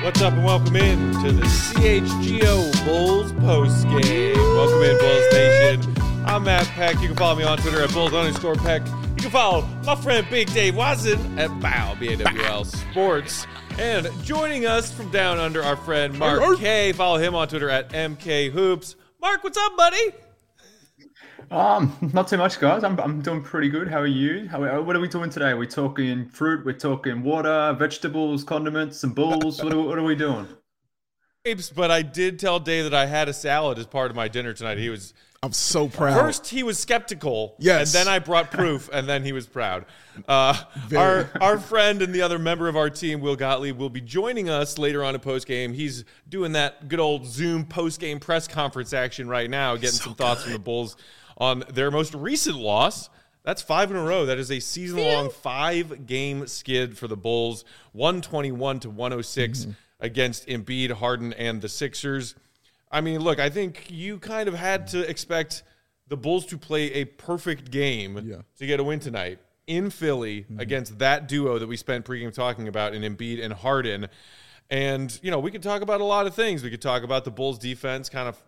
What's up and welcome in to the CHGO Bulls post game. Welcome in, Bulls Nation. I'm Matt Peck. You can follow me on Twitter at Bulls_Peck. You can follow my friend Big Dave Watson at BAW, BAWL Sports. And joining us from down under, our friend Mark K. Follow him on Twitter at MK Hoops. Mark, what's up, buddy? Not too much, guys. I'm doing pretty good. How are you? What are we doing today? We're talking fruit. We're talking water, vegetables, condiments, some bulls. What are we doing? But I did tell Dave that I had a salad as part of my dinner tonight. I'm so proud. First, he was skeptical. Yes. And then I brought proof, and then he was proud. Our friend and the other member of our team, Will Gottlieb, will be joining us later on in postgame. He's doing that good old Zoom postgame press conference action right now, getting some thoughts from the Bulls on their most recent loss. That's 5 in a row. That is a season-long 5-game skid for the Bulls, 121-106 against Embiid, Harden, and the Sixers. I mean, look, I think you kind of had to expect the Bulls to play a perfect game to get a win tonight in Philly against that duo that we spent pregame talking about in Embiid and Harden. And, we could talk about a lot of things. We could talk about the Bulls defense kind of,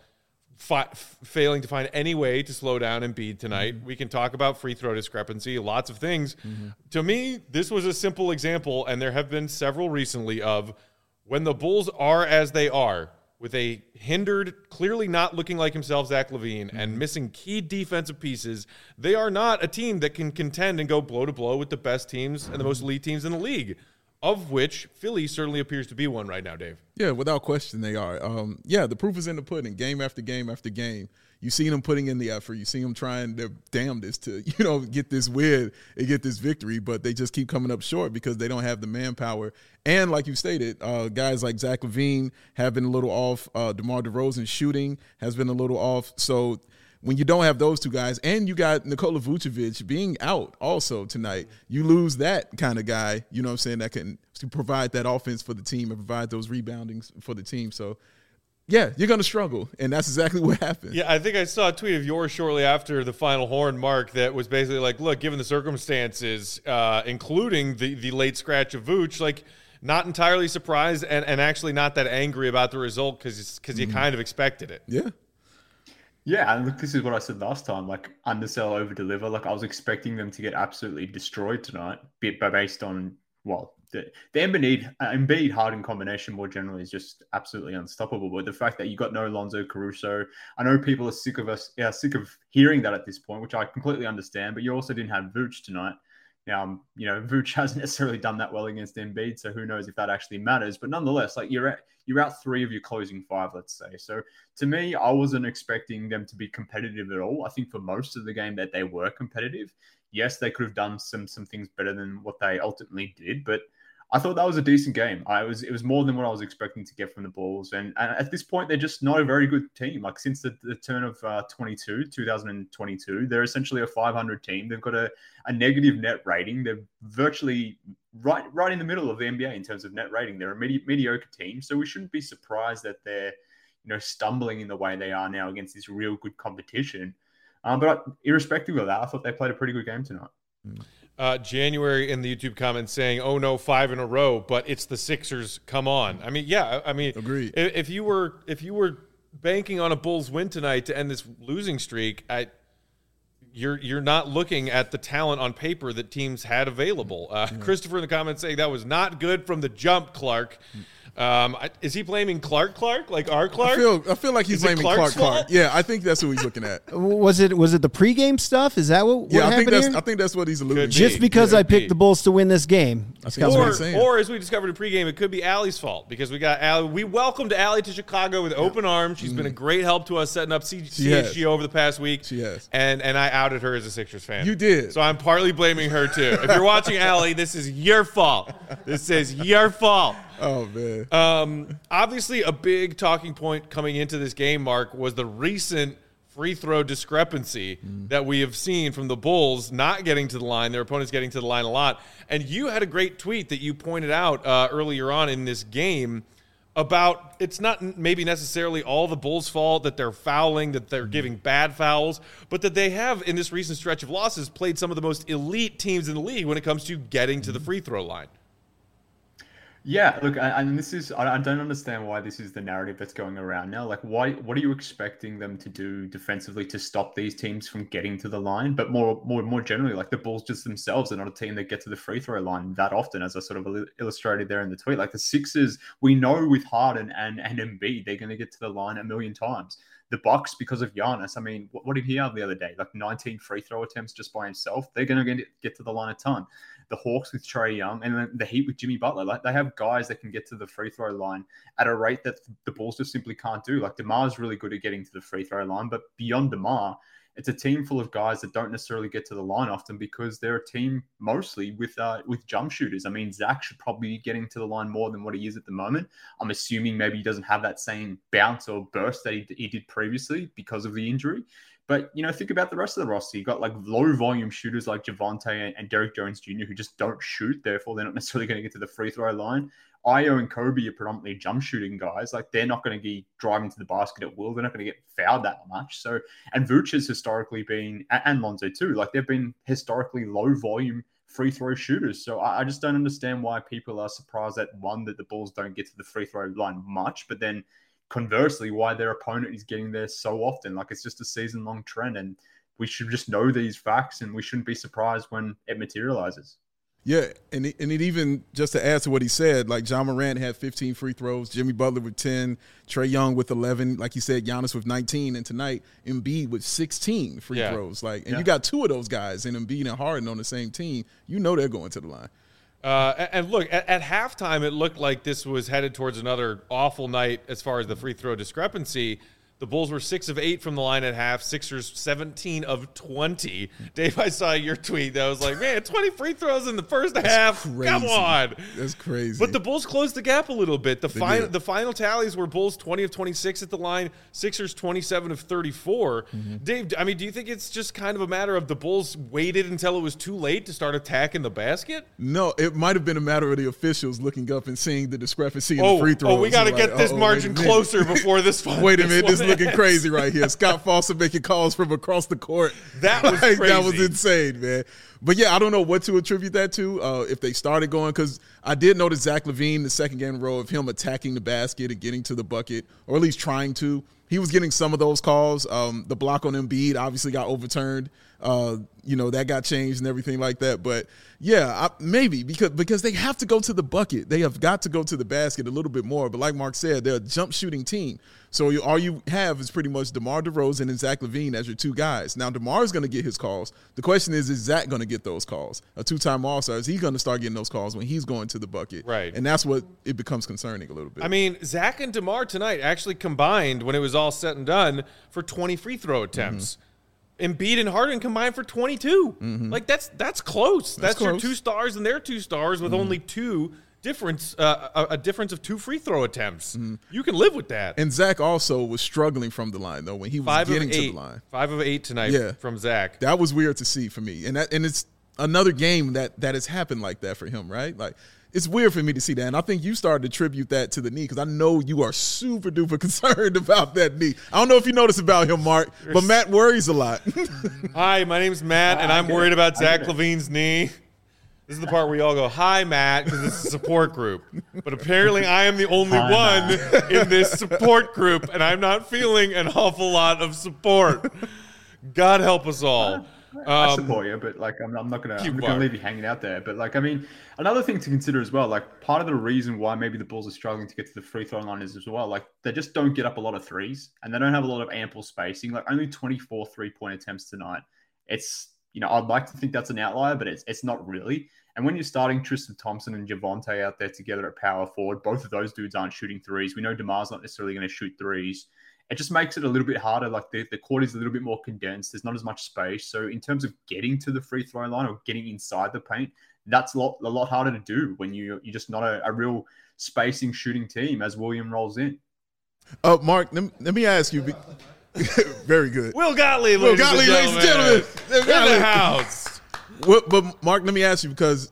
failing to find any way to slow down Embiid tonight. We can talk about free throw discrepancy, lots of things. To me, this was a simple example, and there have been several recently, of when the Bulls are as they are, with a hindered, clearly not looking like himself, Zach LaVine, and missing key defensive pieces, they are not a team that can contend and go blow to blow with the best teams and the most elite teams in the league, of which Philly certainly appears to be one right now, Dave. Yeah, without question they are. The proof is in the pudding, game after game after game. You see them putting in the effort. You see them trying their damnedest to, get this win and get this victory, but they just keep coming up short because they don't have the manpower. And like you stated, guys like Zach LaVine have been a little off. DeMar DeRozan's shooting has been a little off. So when you don't have those two guys, and you got Nikola Vucevic being out also tonight, you lose that kind of guy, that can provide that offense for the team and provide those reboundings for the team. So, yeah, you're going to struggle, and that's exactly what happened. Yeah, I think I saw a tweet of yours shortly after the final horn, Mark, that was basically like, look, given the circumstances, including the late scratch of Vooch, not entirely surprised and actually not that angry about the result because you kind of expected it. Yeah. Yeah, and look, this is what I said last time, undersell, over-deliver. I was expecting them to get absolutely destroyed tonight, based on, the Embiid Harden combination more generally is just absolutely unstoppable. But the fact that you got no Lonzo Caruso, I know people are sick of hearing that at this point, which I completely understand, but you also didn't have Vooch tonight. Now, Vooch hasn't necessarily done that well against Embiid, so who knows if that actually matters. But nonetheless, you're out 3 of your closing 5, let's say. So to me, I wasn't expecting them to be competitive at all. I think for most of the game that they were competitive. Yes, they could have done some things better than what they ultimately did, but I thought that was a decent game. It was more than what I was expecting to get from the Bulls. And at this point, they're just not a very good team. Since the turn of 2022, they're essentially a 500 team. They've got a negative net rating. They're virtually right in the middle of the NBA in terms of net rating. They're a mediocre team. So we shouldn't be surprised that they're stumbling in the way they are now against this real good competition. But irrespective of that, I thought they played a pretty good game tonight. January in the YouTube comments saying, "Oh no, 5 in a row," but it's the Sixers. Come on. Agreed. If you were banking on a Bulls win tonight to end this losing streak, you're not looking at the talent on paper that teams had available. Christopher in the comments saying that was not good from the jump, Clark. Is he blaming Clark, like our Clark? I feel like he's blaming Clark. Yeah, I think that's what he's looking at. Was it the pregame stuff? Is that what happened here? I think that's what he's alluding to. Just because I picked the Bulls to win this game. Or as we discovered in pregame, it could be Allie's fault because we got Allie. We welcomed Allie to Chicago with open arms. She's been a great help to us setting up CHG over the past week. She has. And I outed her as a Sixers fan. You did. So I'm partly blaming her too. If you're watching Allie, this is your fault. This is your fault. Oh, man. Obviously, a big talking point coming into this game, Mark, was the recent free throw discrepancy that we have seen from the Bulls not getting to the line, their opponents getting to the line a lot. And you had a great tweet that you pointed out earlier on in this game about it's not maybe necessarily all the Bulls' fault that they're fouling, that they're giving bad fouls, but that they have, in this recent stretch of losses, played some of the most elite teams in the league when it comes to getting to the free throw line. Yeah, look, and this is, I don't understand why this is the narrative that's going around now. Like, what are you expecting them to do defensively to stop these teams from getting to the line? But more generally, like the Bulls just themselves are not a team that get to the free throw line that often, as I sort of illustrated there in the tweet. Like the Sixers, we know with Harden and Embiid, they're going to get to the line a million times. The Bucks, because of Giannis, I mean, what did he have the other day? Like 19 free throw attempts just by himself. They're going to get to the line a ton. The Hawks with Trae Young, and then the Heat with Jimmy Butler. Like they have guys that can get to the free throw line at a rate that the Bulls just simply can't do. Like DeMar's really good at getting to the free throw line, but beyond DeMar, it's a team full of guys that don't necessarily get to the line often because they're a team mostly with jump shooters. I mean, Zach should probably be getting to the line more than what he is at the moment. I'm assuming maybe he doesn't have that same bounce or burst that he did previously because of the injury. But, you know, think about the rest of the roster. You've got like low volume shooters like Javonte and Derrick Jones Jr. who just don't shoot. Therefore, they're not necessarily going to get to the free throw line. Io and Kobe are predominantly jump shooting guys. Like they're not going to be driving to the basket at will. They're not going to get fouled that much. So, and Vooch has historically been, and Lonzo too, like they've been historically low volume free throw shooters. So I just don't understand why people are surprised that that the Bulls don't get to the free throw line much, but then conversely, why their opponent is getting there so often. Like it's just a season-long trend, and we should just know these facts, and we shouldn't be surprised when it materializes. Yeah, and it even, just to add to what he said, like Ja Morant had 15 free throws, Jimmy Butler with 10, Trae Young with 11, like you said, Giannis with 19, and tonight Embiid with 16 free throws. Like, and you got two of those guys, and Embiid and Harden on the same team. You know they're going to the line. And look, at halftime, it looked like this was headed towards another awful night as far as the free throw discrepancy. The Bulls were 6 of 8 from the line at half. Sixers 17 of 20. Dave, I saw your tweet that was like, man, 20 free throws in the first half. Crazy. Come on. That's crazy. But the Bulls closed the gap a little bit. The final tallies were Bulls 20 of 26 at the line, Sixers 27 of 34. Mm-hmm. Dave, I mean, do you think it's just kind of a matter of the Bulls waited until it was too late to start attacking the basket? No, it might have been a matter of the officials looking up and seeing the discrepancy in the free throws. Oh, we got to get this margin closer before this one. Wait a minute, this looking crazy right here. Scott Foster making calls from across the court. That was crazy. That was insane, man. But yeah, I don't know what to attribute that to. If they started going, because I did notice Zach LaVine, the second game in a row of him attacking the basket and getting to the bucket, or at least trying to. He was getting some of those calls. The block on Embiid obviously got overturned. That got changed and everything like that. But yeah, maybe because they have to go to the bucket. They have got to go to the basket a little bit more. But like Mark said, they're a jump shooting team. So all you have is pretty much DeMar DeRozan and Zach LaVine as your two guys. Now, DeMar is going to get his calls. The question is Zach going to get those calls? A two-time All-Star, is he going to start getting those calls when he's going to the bucket? Right. And that's what it becomes concerning a little bit. I mean, Zach and DeMar tonight actually combined, when it was all said and done, for 20 free throw attempts. Mm-hmm. Embiid and Harden combined for 22. Mm-hmm. Like, that's close. That's close. Your two stars and their two stars with only two difference, a difference of 2 free throw attempts. Mm-hmm. You can live with that. And Zach also was struggling from the line, though, when he was getting to the line. 5 of 8 tonight from Zach. That was weird to see for me. And it's another game that has happened like that for him, right? Like, it's weird for me to see that. And I think you started to attribute that to the knee because I know you are super duper concerned about that knee. I don't know if you noticed about him, Mark, but Matt worries a lot. Hi, my name's Matt, and I'm worried about Zach LaVine's knee. This is the part where you all go, hi, Matt, because it's a support group. But apparently I am the only one in this support group, and I'm not feeling an awful lot of support. God help us all. I support you, but like I'm not gonna leave you hanging out there. But like, I mean, another thing to consider as well, like part of the reason why maybe the Bulls are struggling to get to the free throw line is as well, like they just don't get up a lot of threes and they don't have a lot of ample spacing. Like only 24 3-point attempts tonight. It's, I'd like to think that's an outlier, but it's not really. And when you're starting Tristan Thompson and Javonte out there together at power forward, both of those dudes aren't shooting threes. We know DeMar's not necessarily going to shoot threes. It just makes it a little bit harder. Like the court is a little bit more condensed. There's not as much space. So in terms of getting to the free throw line or getting inside the paint, that's a lot harder to do when you're just not a real spacing shooting team as William rolls in. Mark, let me ask you. Very good. Will Gottlieb, ladies and gentlemen. In the house. But Mark, let me ask you because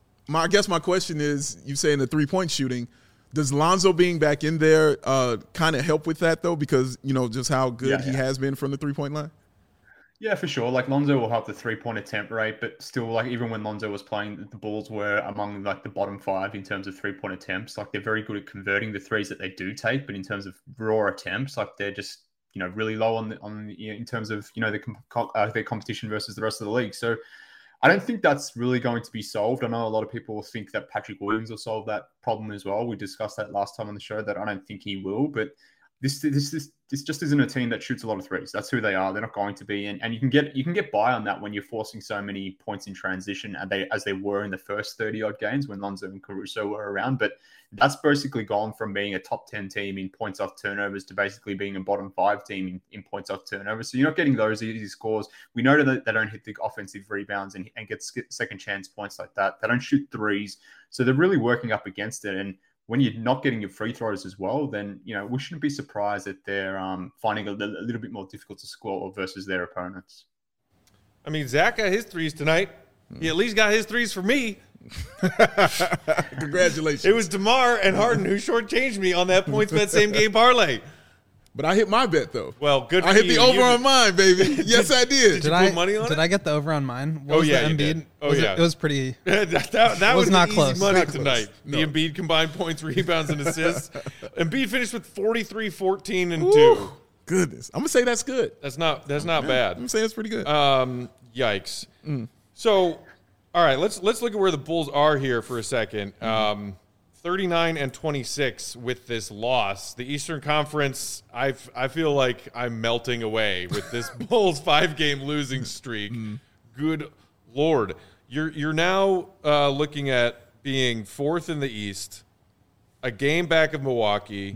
I guess my question is, you saying the 3-point shooting. Does Lonzo being back in there kind of help with that, though? Because, just how good he has been from the 3-point line? Yeah, for sure. Like Lonzo will have the 3-point attempt rate, but still, like even when Lonzo was playing, the Bulls were among like the bottom 5 in terms of 3-point attempts. Like they're very good at converting the threes that they do take, but in terms of raw attempts, like they're just really low in terms of their competition versus the rest of the league. So I don't think that's really going to be solved. I know a lot of people think that Patrick Williams will solve that problem as well. We discussed that last time on the show that I don't think he will, but this just isn't a team that shoots a lot of threes. That's who they are. They're not going to be, and you can get by on that when you're forcing so many points in transition, as they were in the first 30 odd games when Lonzo and Caruso were around. But that's basically gone from being a top 10 team in points off turnovers to basically being a bottom 5 team in points off turnovers. So you're not getting those easy scores. We know that they don't hit the offensive rebounds and get second chance points like that. They don't shoot threes, so they're really working up against it. And when you're not getting your free throws as well, then, we shouldn't be surprised that they're finding a little bit more difficult to score versus their opponents. I mean, Zach got his threes tonight. He at least got his threes for me. Congratulations. It was DeMar and Harden who shortchanged me on that PointsBet same game parlay. But I hit my bet, though. Well, good for you. I hit the over on mine, baby. Yes, I did. Did you put money on it? Did I get the over on mine? What was the Embiid? Did. Yeah. It was pretty. that was not close. Easy money tonight. No. The Embiid combined points, rebounds, and assists. Embiid finished with 43, 14, and 2. Goodness. I'm going to say that's good. That's not bad. I'm going to say that's pretty good. Yikes. So, all right, let's look at where the Bulls are here for a second. 39-26 with this loss. The Eastern Conference, I feel like I'm melting away with this Bulls 5-game losing streak. Good Lord. You're now looking at being 4th in the East, a game back of Milwaukee,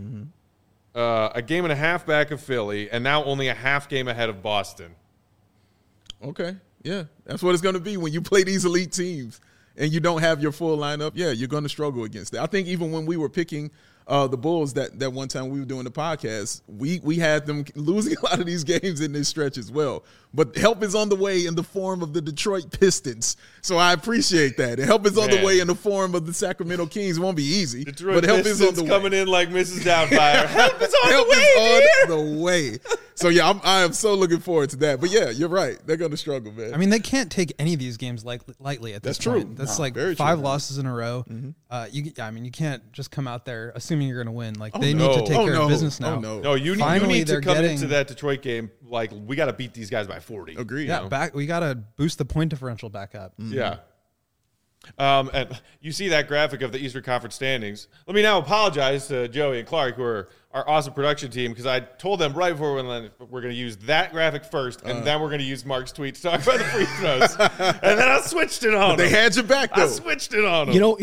a game and a half back of Philly, and now only a half game ahead of Boston. Okay. Yeah. That's what it's going to be when you play these elite teams. And you don't have your full lineup, you're going to struggle against it. I think even when we were picking the Bulls that one time we were doing the podcast, we had them losing a lot of these games in this stretch as well. But help is on the way in the form of the Detroit Pistons. So I appreciate that. And help is on the way in the form of the Sacramento Kings. It won't be easy. Detroit but help Pistons is on the coming way. in like Mrs. Doubtfire. Help is on help the way, is on the way. So, I am so looking forward to that. But, you're right. They're going to struggle, man. I mean, they can't take any of these games lightly at this point. That's true. That's 5 losses in a row. You can't just come out there assuming you're going to win. Like, they need to take care of business now. No, you need to come into that Detroit game like, we got to beat these guys by 40. Agreed. Yeah, we got to boost the point differential back up. Yeah. And you see that graphic of the Eastern Conference standings. Let me now apologize to Joey and Clark, who are our awesome production team, because I told them right before we're going to use that graphic first, and then we're going to use Mark's tweet to talk about the free throws. And then I switched it on. They had your back, though. I switched it on them.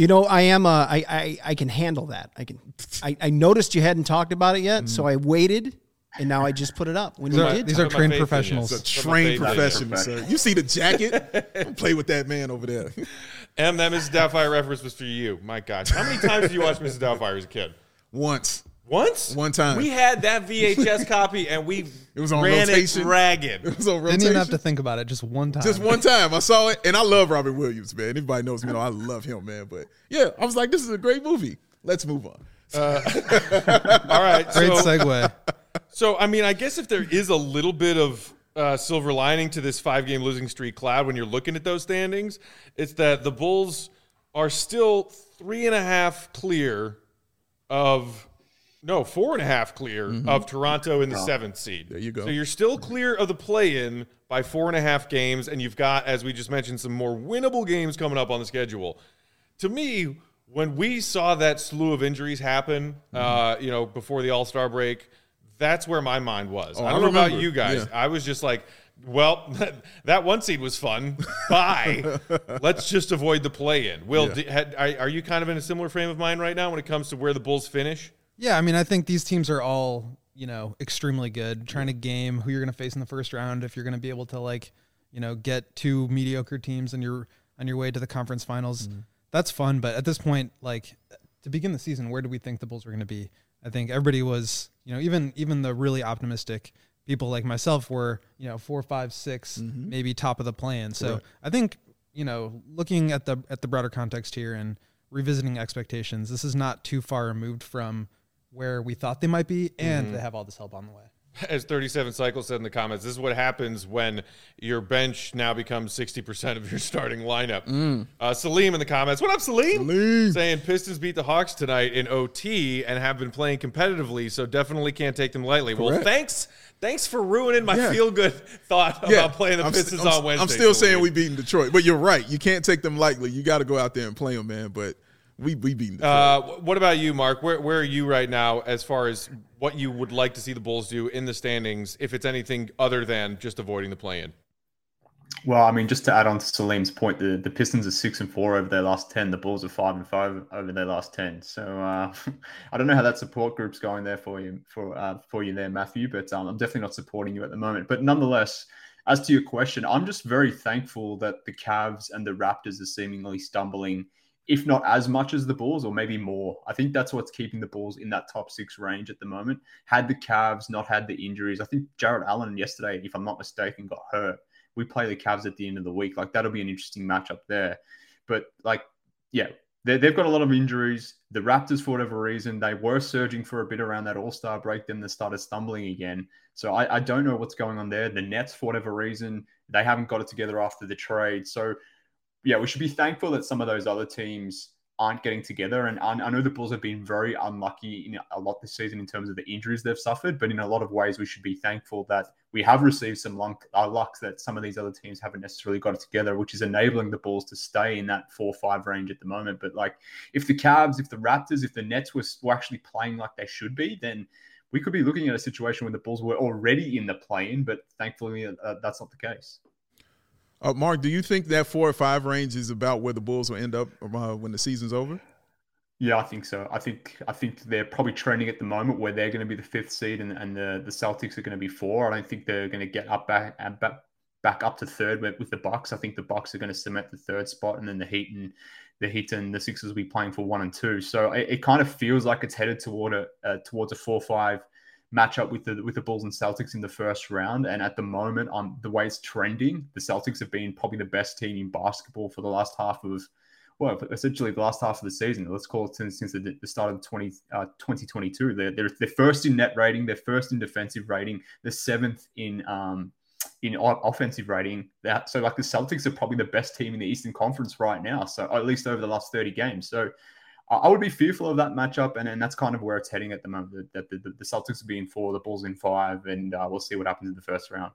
I can handle that. I noticed you hadn't talked about it yet, so I waited. And now I just put it up. When these are trained professionals. It's a trained professional, sir. You see the jacket? Don't play with that man over there. And that Mrs. Doubtfire reference was for you. My gosh. How many times did you watch Mrs. Doubtfire as a kid? Once. One time. We had that VHS copy, and we ran it ragged. It was on rotation. Didn't even have to think about it. Just one time. Just one time. I saw it, and I love Robin Williams, man. Anybody knows me, I love him, man. But, I was like, this is a great movie. Let's move on. All right. Great segue. So, I guess if there is a little bit of silver lining to this 5-game losing streak cloud when you're looking at those standings, it's that the Bulls are still 3.5 clear of – 4.5 clear of Toronto in the 7th seed. There you go. So you're still clear of the play-in by 4.5 games, and you've got, as we just mentioned, some more winnable games coming up on the schedule. To me, when we saw that slew of injuries happen, before the All-Star break – that's where my mind was. I don't know about you guys. Yeah. I was just like, well, that 1 seed was fun. Bye. Let's just avoid the play-in. Will, are you kind of in a similar frame of mind right now when it comes to where the Bulls finish? Yeah, I think these teams are all, extremely good. Trying to game who you're going to face in the first round if you're going to be able to, get 2 mediocre teams on your way to the conference finals. That's fun, but at this point, to begin the season, where do we think the Bulls were going to be? I think everybody was, even the really optimistic people like myself were, 4, 5, 6, maybe top of the plan. So right. I think, looking at the broader context here and revisiting expectations, this is not too far removed from where we thought they might be, and they have all this help on the way. As 37 Cycles said in the comments, this is what happens when your bench now becomes 60% of your starting lineup. Salim in the comments. What up, Salim? Saying Pistons beat the Hawks tonight in OT and have been playing competitively, so definitely can't take them lightly. Correct. Well, thanks for ruining my feel-good thought about playing the Pistons on Wednesday. I'm still saying we beating Detroit, but you're right. You can't take them lightly. You got to go out there and play them, man, but we beating Detroit. What about you, Mark? Where are you right now as far as what you would like to see the Bulls do in the standings, if it's anything other than just avoiding the play-in? Well, I mean, just to add on to Salim's point, the Pistons are 6-4 over their last 10. The Bulls are 5-5 over their last 10. So I don't know how that support group's going there for you there, Matthew. But I'm definitely not supporting you at the moment. But nonetheless, as to your question, I'm just very thankful that the Cavs and the Raptors are seemingly stumbling, if not as much as the Bulls, or maybe more. I think that's what's keeping the Bulls in that top 6 range at the moment. Had the Cavs not had the injuries, I think Jarrett Allen yesterday, if I'm not mistaken, got hurt. We play the Cavs at the end of the week. Like, that'll be an interesting matchup there. But, like, yeah, they've got a lot of injuries. The Raptors, for whatever reason, they were surging for a bit around that All-Star break. Then they started stumbling again. So I don't know what's going on there. The Nets, for whatever reason, they haven't got it together after the trade. So, yeah, we should be thankful that some of those other teams aren't getting together. And I know the Bulls have been very unlucky in a lot this season in terms of the injuries they've suffered, but in a lot of ways we should be thankful that we have received some luck that some of these other teams haven't necessarily got it together, which is enabling the Bulls to stay in that 4-5 range at the moment. But like, if the Cavs, if the Raptors, if the Nets were actually playing like they should be, then we could be looking at a situation where the Bulls were already in the play-in, but thankfully that's not the case. Mark, do you think that 4 or 5 range is about where the Bulls will end up when the season's over? Yeah, I think so. I think they're probably trending at the moment where they're going to be the 5th seed and the Celtics are going to be 4. I don't think they're going to get back up to 3rd with the Bucks. I think the Bucks are going to cement the 3rd spot, and then the Heat and the Sixers will be playing for 1 and 2. So it kind of feels like it's headed towards a 4-5 matchup with the Bulls and Celtics in the first round. And at the moment, the way it's trending, the Celtics have been probably the best team in basketball for the last half of, essentially the last half of the season. Let's call it since the start of 2022. They're first in net rating, they're first in defensive rating, they're 7th in offensive rating. So like the Celtics are probably the best team in the Eastern Conference right now. So at least over the last 30 games. So I would be fearful of that matchup, and that's kind of where it's heading at the moment. That the Celtics will be in 4, the Bulls in 5, and we'll see what happens in the first round.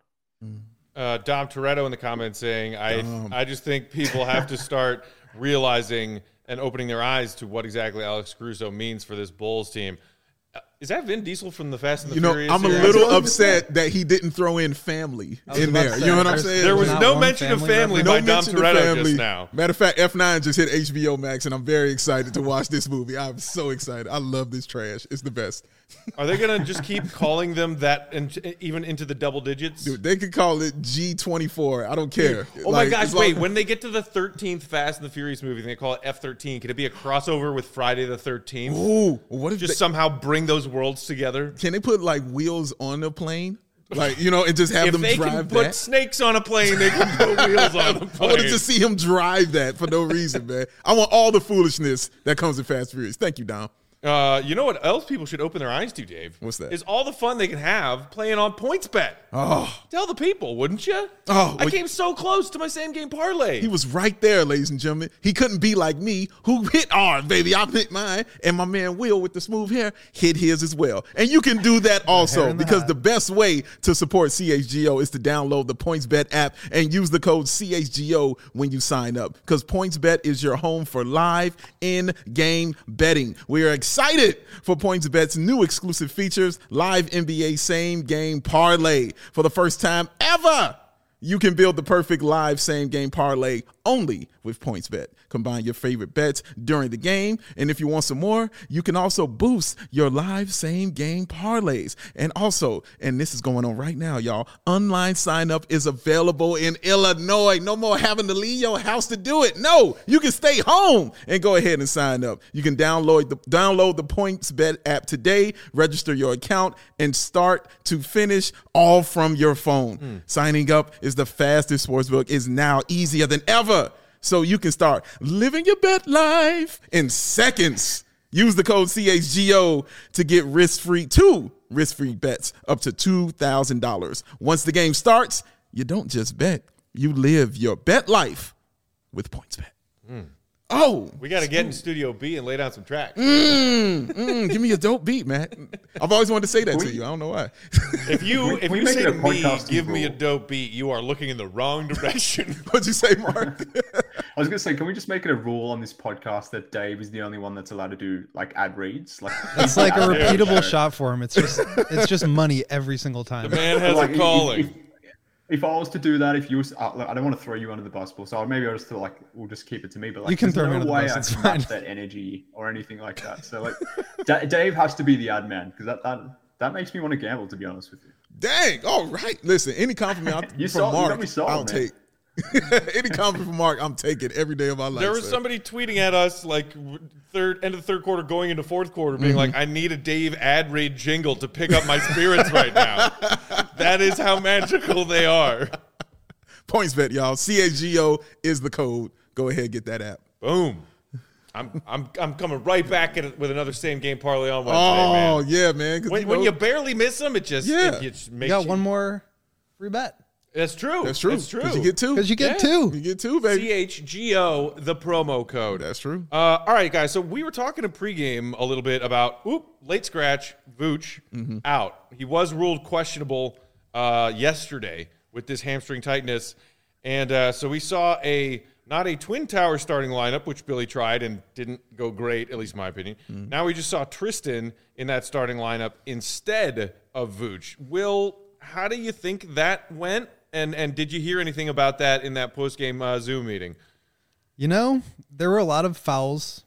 Dom Toretto in the comments saying, I just think people have to start realizing and opening their eyes to what exactly Alex Caruso means for this Bulls team. Is that Vin Diesel from the Fast and the Furious? I'm a little upset that he didn't throw in family in there. You know what I'm saying? There was no mention of family by Dom Toretto just now. Matter of fact, F9 just hit HBO Max, and I'm very excited to watch this movie. I'm so excited. I love this trash. It's the best. Are they going to just keep calling them that and even into the double digits? Dude, they could call it G24. I don't care. Oh my gosh, wait. When they get to the 13th Fast and the Furious movie, they call it F13. Could it be a crossover with Friday the 13th? Ooh, what if just somehow bring those worlds together? Can they put like wheels on the plane? Like, and just have them drive that? If they can put snakes on a plane, they can put wheels on the plane. I want to just see him drive that for no reason, man. I want all the foolishness that comes in Fast and Furious. Thank you, Dom. You know what else people should open their eyes to, Dave? What's that? Is all the fun they can have playing on PointsBet. Oh. Tell the people, wouldn't you? Oh. I came so close to my same-game parlay. He was right there, ladies and gentlemen. He couldn't be like me, who hit ours, baby. I hit mine, and my man Will with the smooth hair hit his as well. And you can do that also, because the best way to support CHGO is to download the PointsBet app and use the code CHGO when you sign up, because PointsBet is your home for live in-game betting. We are excited for PointsBet's new exclusive features, live NBA same-game parlay. For the first time ever, you can build the perfect live same-game parlay only with PointsBet. Combine your favorite bets during the game, and if you want some more, you can also boost your live same-game parlays. And also, and this is going on right now, y'all, online sign-up is available in Illinois. No more having to leave your house to do it. No, you can stay home and go ahead and sign up. You can download the PointsBet app today, register your account, and start to finish all from your phone. Signing up is the fastest sportsbook, is now easier than ever. So you can start living your bet life in seconds. Use the code CHGO to get risk-free bets up to $2,000. Once the game starts, you don't just bet, you live your bet life with PointsBet. Oh, we got to get in Studio B and lay down some tracks. Give me a dope beat, Matt. I've always wanted to say that to you. I don't know why. If you say to me, give me a dope beat, you are looking in the wrong direction. What'd you say, Mark? I was going to say, can we just make it a rule on this podcast that Dave is the only one that's allowed to do like ad reads? Like it's like a repeatable shot for him. It's just money every single time. The man has a calling. If I was to do that, if you was, I don't want to throw you under the bus, so maybe I'll just feel like we'll just keep it to me. But like, you can throw me under the bus. It's I can fine. match that energy or anything like that. So like, Dave has to be the ad man because that makes me want to gamble. To be honest with you. Dang! All right. Listen, any compliment from Mark, I'll take. Any compliment from Mark, I'm taking every day of my life. There was somebody tweeting at us like end of the third quarter, going into fourth quarter, being like, "I need a Dave ad read jingle to pick up my spirits right now." That is how magical they are. PointsBet, y'all. CHGO is the code. Go ahead, get that app. Boom. I'm coming right back at it with another same game parlay on Wednesday, man. Oh yeah, man. When you barely miss them, it just makes you got one more free bet. That's true. That's true. That's true. Because you get two. Because you get two. You get two, baby. CHGO, the promo code. That's true. All right, guys. So we were talking in pregame a little bit about late scratch, Vooch out. He was ruled questionable yesterday with this hamstring tightness. And so we saw not a Twin Tower starting lineup, which Billy tried and didn't go great, at least in my opinion. Now we just saw Tristan in that starting lineup instead of Vooch. Will, how do you think that went? And did you hear anything about that in that post-game Zoom meeting? You know, there were a lot of fouls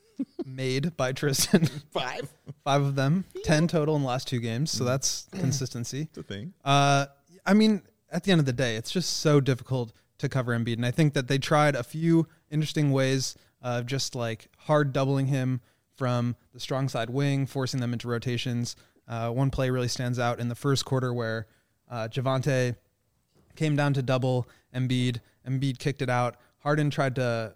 made by Tristan. Five of them. 10 total in the last two games. So that's consistency. It's a thing. I mean, at the end of the day, it's just so difficult to cover Embiid. And I think that they tried a few interesting ways of just like hard doubling him from the strong side wing, forcing them into rotations. One play really stands out in the first quarter where Javonte came down to double Embiid. Embiid kicked it out. Harden tried to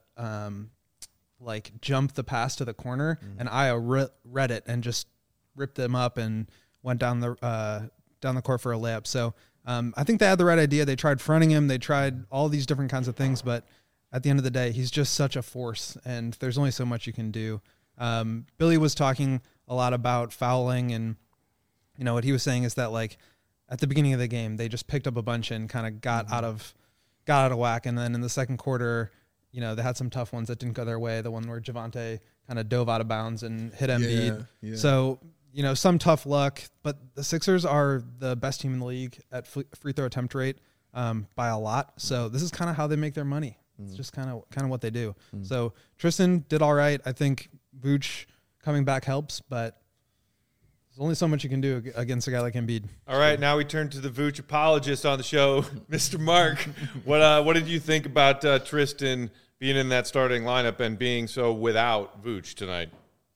jump the pass to the corner, and Io read it and just ripped them up and went down the court for a layup. So I think they had the right idea. They tried fronting him. They tried all these different kinds of things, but at the end of the day, he's just such a force, and there's only so much you can do. Billy was talking a lot about fouling, and what he was saying is that like at the beginning of the game, they just picked up a bunch and kind of got out of whack. And then in the second quarter, they had some tough ones that didn't go their way. The one where Javonte kind of dove out of bounds and hit Embiid. Yeah. So, some tough luck, but the Sixers are the best team in the league at free throw attempt rate by a lot. So this is kind of how they make their money. It's just kind of what they do. So Tristan did all right. I think Vooch coming back helps, but there's only so much you can do against a guy like Embiid. All right, now we turn to the Vooch apologist on the show, Mr. Mark. What did you think about Tristan being in that starting lineup and being so without Vooch tonight?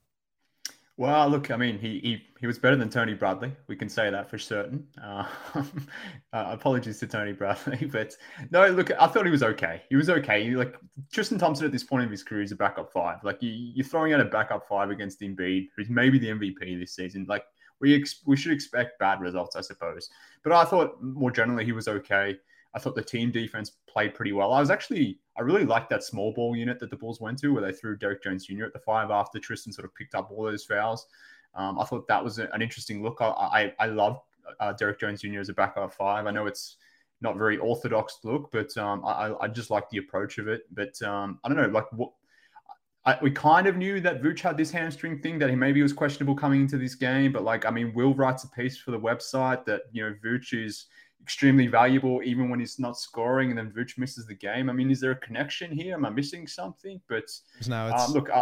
Well, look, I mean, he was better than Tony Bradley. We can say that for certain. Apologies to Tony Bradley, but no, look, I thought he was okay. He was okay. Like Tristan Thompson at this point of his career is a backup five. Like you're throwing out a backup five against Embiid, who's maybe the MVP this season. Like we should expect bad results, I suppose. But I thought more generally he was okay. I thought the team defense played pretty well. I really liked that small ball unit that the Bulls went to where they threw Derek Jones Jr. at the five after Tristan sort of picked up all those fouls. I thought that was an interesting look. I love Derek Jones Jr. as a backup five. I know it's not very orthodox look, but I just like the approach of it. But I don't know, we kind of knew that Vooch had this hamstring thing, that he maybe was questionable coming into this game. But Will writes a piece for the website that, Vooch is extremely valuable even when he's not scoring, and then Vooch misses the game. I mean, is there a connection here? Am I missing something? But look,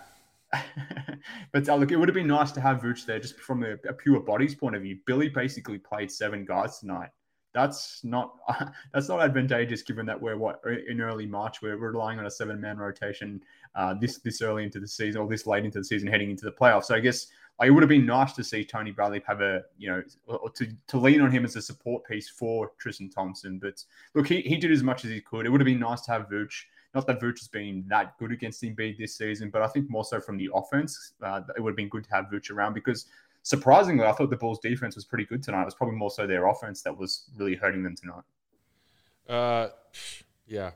look, it would have been nice to have Vooch there just from a pure bodies point of view. Billy basically played 7 guards tonight. That's not advantageous given that we're in early March. We're relying on a 7-man rotation this early into the season, or this late into the season, heading into the playoffs. So I guess it would have been nice to see Tony Bradley have to lean on him as a support piece for Tristan Thompson. But look, he did as much as he could. It would have been nice to have Vooch. Not that Vooch has been that good against Embiid this season, but I think more so from the offense, it would have been good to have Vooch around because surprisingly, I thought the Bulls' defense was pretty good tonight. It was probably more so their offense that was really hurting them tonight. Yeah.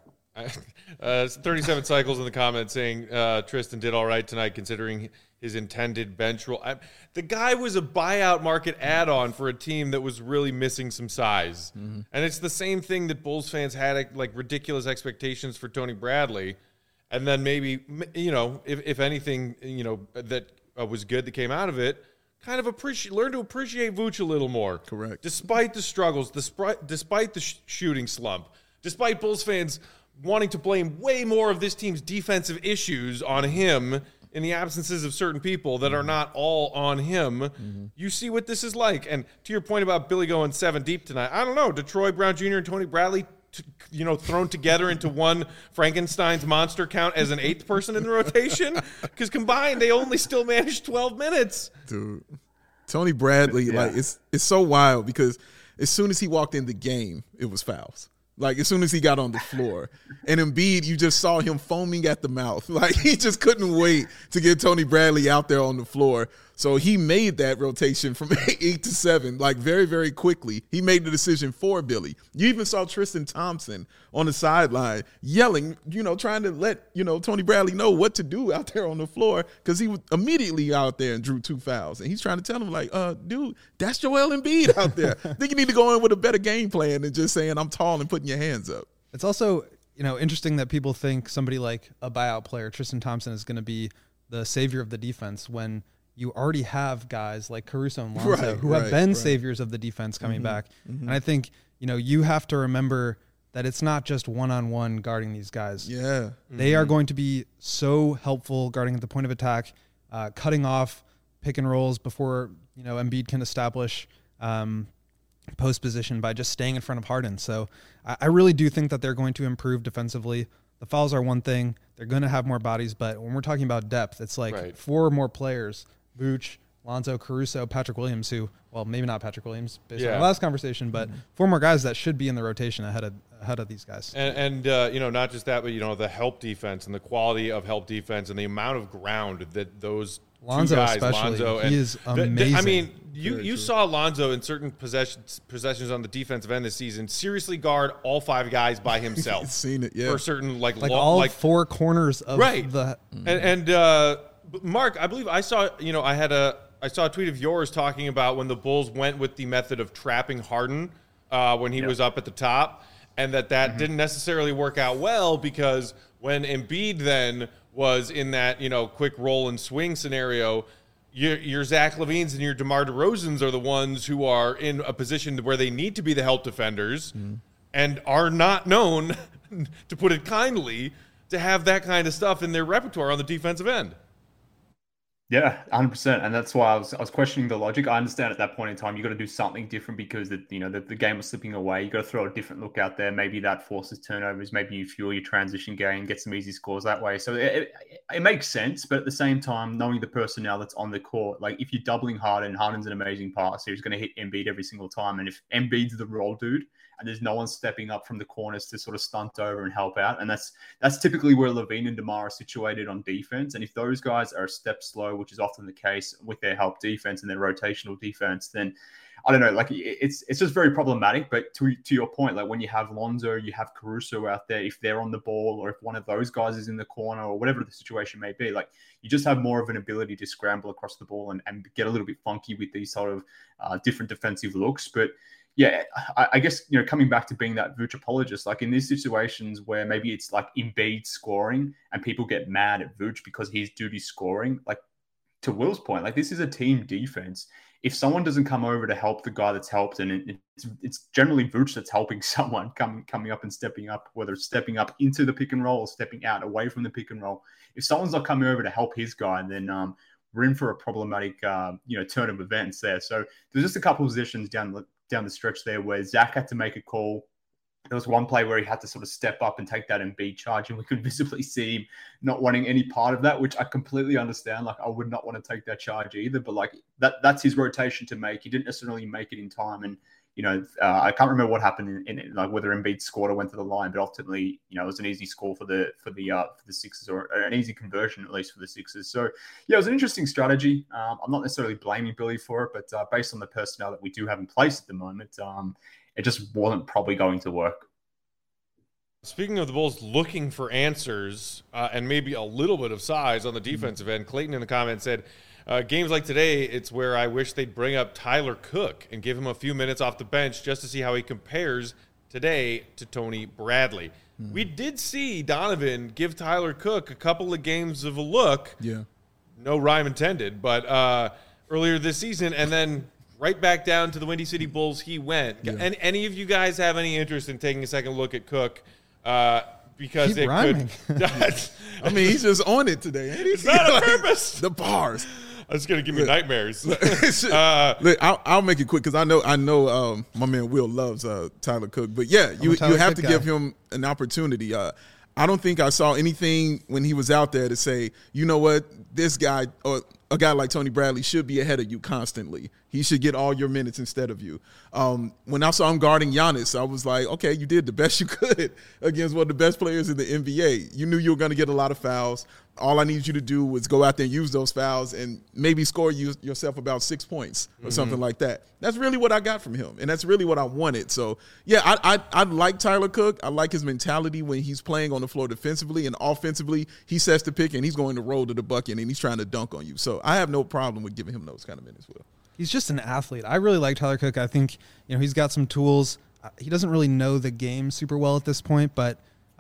37 cycles in the comments saying Tristan did all right tonight considering his intended bench role. The guy was a buyout market add-on for a team that was really missing some size. Mm-hmm. And it's the same thing that Bulls fans had like ridiculous expectations for Tony Bradley. And then maybe, if anything, that was good that came out of it, kind of learn to appreciate Vooch a little more. Correct. Despite the struggles, despite the shooting slump, despite Bulls fans wanting to blame way more of this team's defensive issues on him in the absences of certain people that are not all on him, you see what this is like. And to your point about Billy going 7 deep tonight, I don't know, Detroit Brown Jr. and Tony Bradley, thrown together into one Frankenstein's monster count as an 8th person in the rotation? Because combined, they only still managed 12 minutes. Dude, Tony Bradley, it's so wild because as soon as he walked in the game, it was fouls. Like, as soon as he got on the floor. And Embiid, you just saw him foaming at the mouth. Like, he just couldn't wait to get Tony Bradley out there on the floor. So he made that rotation from 8 to 7, like, very, very quickly. He made the decision for Billy. You even saw Tristan Thompson on the sideline yelling, trying to let, Tony Bradley know what to do out there on the floor because he was immediately out there and drew 2 fouls. And he's trying to tell him, like, dude, that's Joel Embiid out there. I think you need to go in with a better game plan than just saying I'm tall and putting your hands up. It's also, interesting that people think somebody like a buyout player, Tristan Thompson, is going to be the savior of the defense when you already have guys like Caruso and Lonzo who have been saviors of the defense coming back. Mm-hmm. And I think, you have to remember that it's not just one-on-one guarding these guys. Yeah. They are going to be so helpful guarding at the point of attack, cutting off pick and rolls before, Embiid can establish post position by just staying in front of Harden. So I really do think that they're going to improve defensively. The fouls are one thing. They're going to have more bodies, but when we're talking about depth, it's like 4 more players, Vooch, Lonzo, Caruso, Patrick Williams, who, well, maybe not Patrick Williams based on the last conversation, but 4 more guys that should be in the rotation ahead of these guys. And not just that, but, the help defense and the quality of help defense and the amount of ground that those Lonzo, 2 guys, especially, he is amazing. You saw Lonzo in certain possessions on the defensive end this season seriously guard all 5 guys by himself. Seen it, yeah. For certain all 4 corners of the and Mark, I believe I saw I saw a tweet of yours talking about when the Bulls went with the method of trapping Harden when he was up at the top, and that didn't necessarily work out well because when Embiid then was in that quick roll and swing scenario, your Zach LaVines and your DeMar DeRozans are the ones who are in a position where they need to be the help defenders and are not known, to put it kindly, to have that kind of stuff in their repertoire on the defensive end. Yeah, 100%, and that's why I was questioning the logic. I understand at that point in time you got to do something different because the game was slipping away. You got to throw a different look out there. Maybe that forces turnovers. Maybe you fuel your transition game, get some easy scores that way. So it makes sense, but at the same time, knowing the personnel that's on the court, like if you're doubling Harden's an amazing passer. He's going to hit Embiid every single time, and if Embiid's the roll dude, and there's no one stepping up from the corners to sort of stunt over and help out. And that's typically where LaVine and DeMar are situated on defense. And if those guys are a step slow, which is often the case with their help defense and their rotational defense, then I don't know, like it's just very problematic. But to your point, like when you have Lonzo, you have Caruso out there, if they're on the ball or if one of those guys is in the corner or whatever the situation may be, like you just have more of an ability to scramble across the ball and get a little bit funky with these sort of different defensive looks. But yeah, I guess, coming back to being that Vooch apologist, like in these situations where maybe it's like Embiid scoring and people get mad at Vooch because he's duty scoring, like to Will's point, like this is a team defense. If someone doesn't come over to help the guy that's helped, and it's generally Vooch that's helping someone coming up and stepping up, whether it's stepping up into the pick and roll or stepping out away from the pick and roll. If someone's not coming over to help his guy, then we're in for a problematic, turn of events there. So there's just a couple of positions down the stretch there where Zach had to make a call. There was one play where he had to sort of step up and take that Embiid charge, and we could visibly see him not wanting any part of that, which I completely understand. Like, I would not want to take that charge either, but like that's his rotation to make. He didn't necessarily make it in time, and I can't remember what happened in like whether Embiid scored or went to the line, but ultimately, it was an easy score for the Sixers, or an easy conversion at least for the Sixers. So yeah, it was an interesting strategy. I'm not necessarily blaming Billy for it, but based on the personnel that we do have in place at the moment, it just wasn't probably going to work. Speaking of the Bulls looking for answers and maybe a little bit of size on the defensive end, Clayton in the comments said, games like today, it's where I wish they'd bring up Tyler Cook and give him a few minutes off the bench just to see how he compares today to Tony Bradley. We did see Donovan give Tyler Cook a couple of games of a look. Yeah. No rhyme intended, but earlier this season, and then right back down to the Windy City Bulls he went. Yeah. And any of you guys have any interest in taking a second look at Cook? Because Keep it rhyming. could. I mean, he's just on it today. Ain't he? It's not on purpose. The bars. It's gonna give me nightmares. Look, I'll make it quick because I know my man Will loves Tyler Cook, but yeah, you have to give him an opportunity. I don't think I saw anything when he was out there to say, you know what, this guy or a guy like Tony Bradley should be ahead of you constantly. He should get all your minutes instead of you. When I saw him guarding Giannis, I was like, okay, you did the best you could against one of the best players in the NBA. You knew you were going to get a lot of fouls. All I needed you to do was go out there and use those fouls and maybe score yourself about 6 points or something like that. That's really what I got from him, and that's really what I wanted. So, yeah, I like Tyler Cook. I like his mentality when he's playing on the floor defensively, and offensively he sets the pick and he's going to roll to the bucket and he's trying to dunk on you. So I have no problem with giving him those kind of minutes, Will. He's just an athlete. I really like Tyler Cook. I think, he's got some tools. He doesn't really know the game super well at this point, but,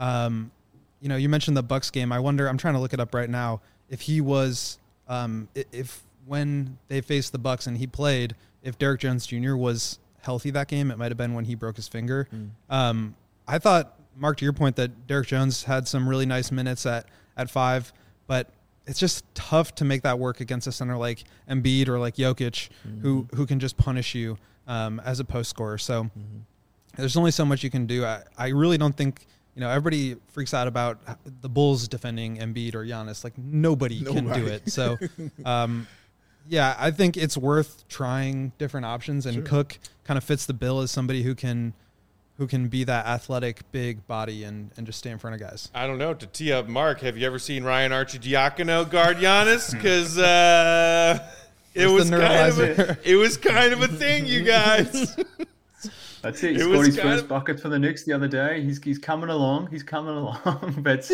you mentioned the Bucks game. I wonder, I'm trying to look it up right now, if he was, if when they faced the Bucks and he played, if Derrick Jones Jr. was healthy that game, it might have been when he broke his finger. I thought, Mark, to your point, that Derrick Jones had some really nice minutes at 5, but it's just tough to make that work against a center like Embiid or like Jokic, who can just punish you as a post scorer. So there's only so much you can do. I really don't think, everybody freaks out about the Bulls defending Embiid or Giannis. Like nobody can do it. So, yeah, I think it's worth trying different options, and Cook kind of fits the bill as somebody who can be that athletic, big body and just stay in front of guys. I don't know. To tee up Mark, have you ever seen Ryan Arcidiacono guard Giannis? Because it was kind of a thing, you guys. That's it. He scored his first bucket for the Knicks the other day. He's coming along. He's coming along. But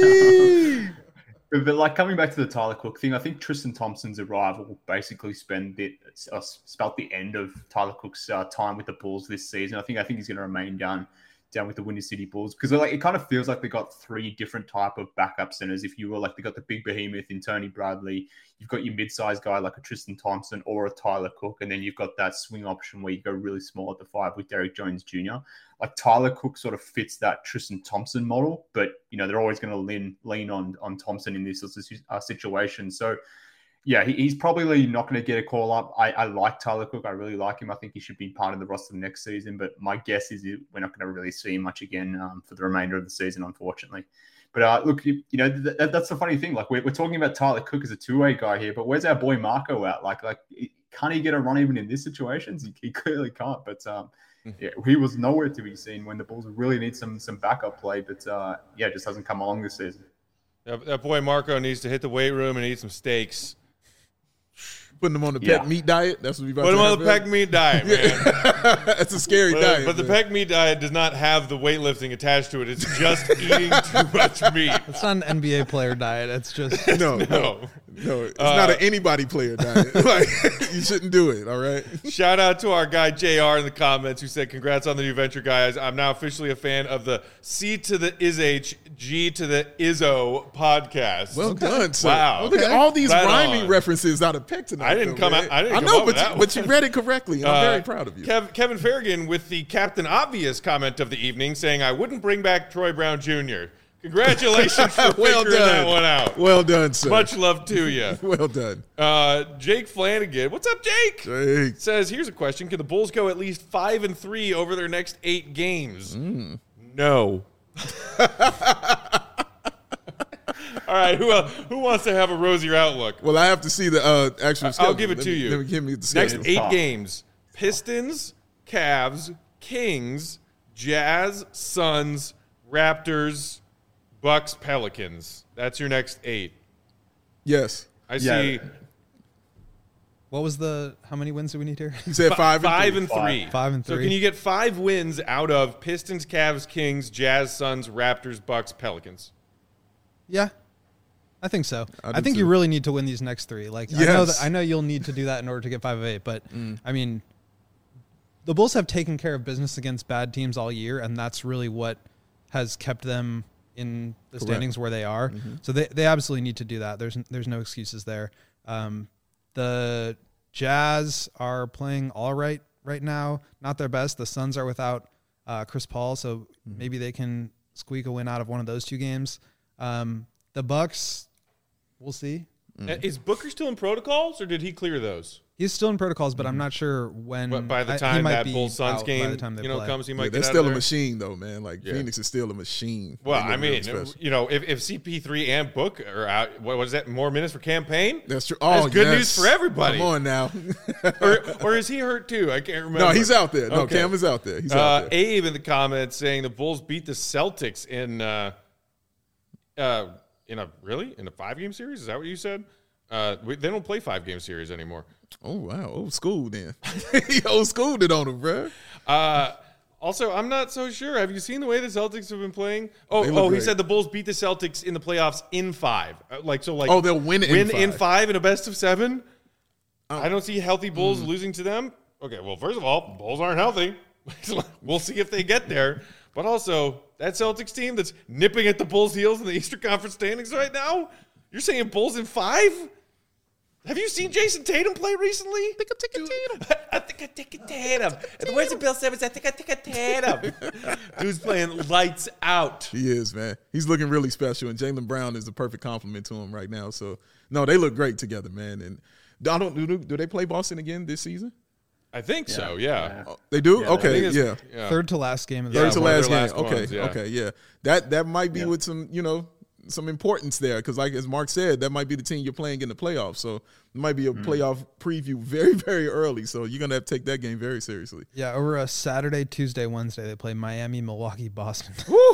like coming back to the Tyler Cook thing, I think Tristan Thompson's arrival basically spelled the end of Tyler Cook's time with the Bulls this season. I think he's going to remain down with the Windy City Bulls, because it kind of feels like they got 3 different type of backup centers. If you will, like they got the big behemoth in Tony Bradley, you've got your mid-sized guy like a Tristan Thompson or a Tyler Cook, and then you've got that swing option where you go really small at the 5 with Derrick Jones Jr. Like Tyler Cook sort of fits that Tristan Thompson model, but they're always going to lean on Thompson in this situation. So yeah, he's probably not going to get a call up. I like Tyler Cook. I really like him. I think he should be part of the roster next season. But my guess is we're not going to really see him much again for the remainder of the season, unfortunately. But look, that's the funny thing. Like we're talking about Tyler Cook as a two-way guy here, but where's our boy Marco at? Like can't he get a run even in these situations? He clearly can't. But yeah, he was nowhere to be seen when the Bulls really need some backup play. But yeah, it just hasn't come along this season. That boy Marco needs to hit the weight room and eat some steaks. Putting them on the pec meat diet. That's what we about put to them on the pec meat diet, man. That's a scary diet. But the pec meat diet does not have the weightlifting attached to it. It's just eating too much meat. It's not an NBA player diet. It's just no. It's not an anybody player diet. Like you shouldn't do it. All right. Shout out to our guy JR in the comments who said, "Congrats on the new venture, guys. I'm now officially a fan of the C to the ISH, G to the ISO podcast." Well done, sir. Wow. Look at all these rhyming references out of Peck tonight. I didn't come up with that but you read it correctly, and I'm very proud of you. Kevin Farragon with the Captain Obvious comment of the evening saying, "I wouldn't bring back Troy Brown Jr." Congratulations for figuring that one out. Well done, sir. Much love to you. Well done. Jake Flanagan. What's up, Jake? Says, here's a question. Can the Bulls go at least 5-3 over their next 8 games? No. All right, who wants to have a rosier outlook? Well, I have to see the actual schedule. I'll give it to you. Let me give me the schedule. Next 8 games. Pistons, Cavs, Kings, Jazz, Suns, Raptors, Bucks, Pelicans. That's your next 8. Yes. I see. What was how many wins do we need here? You said 5 and 3. 5 and 3. So can you get 5 wins out of Pistons, Cavs, Kings, Jazz, Suns, Raptors, Bucks, Pelicans? Yeah. I think so. I think too. you really need to win these next 3. Like Yes. I know you'll need to do that in order to get 5 of 8, but I mean, the Bulls have taken care of business against bad teams all year, and that's really what has kept them in the standings where they are. So they absolutely need to do that. There's no excuses there. The Jazz are playing all right now. Not their best. The Suns are without Chris Paul, so maybe they can squeak a win out of one of those 2 games. The Bucks, we'll see. Is Booker still in protocols, or did he clear those? He's still in protocols, but I'm not sure when. But by the he time might that be Bulls-Suns out game by the time they play. comes, he might they're get out still of a there. machine, though, man. Like, Phoenix is still a machine. Well, They look I mean, real special. if CP3 and Book are out, what is that? More minutes for campaign? That's true. That's Oh, good yes. news for everybody. Come on now. or is he hurt too? I can't remember. No, he's out there. No, Okay. Cam is out there. He's out there. Abe in the comments saying the Bulls beat the Celtics in a 5-game series. Is that what you said? They don't play 5-game series anymore. Oh, wow. Old school then. He old schooled it on him, bro. Also, I'm not so sure. Have you seen the way the Celtics have been playing? They look He great. said the Bulls beat the Celtics in the playoffs in 5. They'll win in 5 in a best of 7? I don't see healthy Bulls losing to them. Okay, well, first of all, Bulls aren't healthy. We'll see if they get there. But also, that Celtics team that's nipping at the Bulls' heels in the Eastern Conference standings right now, you're saying Bulls in 5? Have you seen Jason Tatum play recently? I think I take a Tatum. And the words of Bill Simmons, I think I take a Tatum. Dude's playing lights out. He is, man. He's looking really special, and Jaylen Brown is the perfect compliment to him right now. So, no, they look great together, man. And do they play Boston again this season? I think so, yeah. Oh, they do? Yeah, okay, I think yeah. Third to last game of the Third to one of last their game. last Okay, ones, yeah. okay, yeah. That might be with some, some importance there because, like as Mark said, that might be the team you're playing in the playoffs. So it might be a playoff preview very, very early. So you're gonna have to take that game very seriously. Yeah, over a Saturday, Tuesday, Wednesday, they play Miami, Milwaukee, Boston.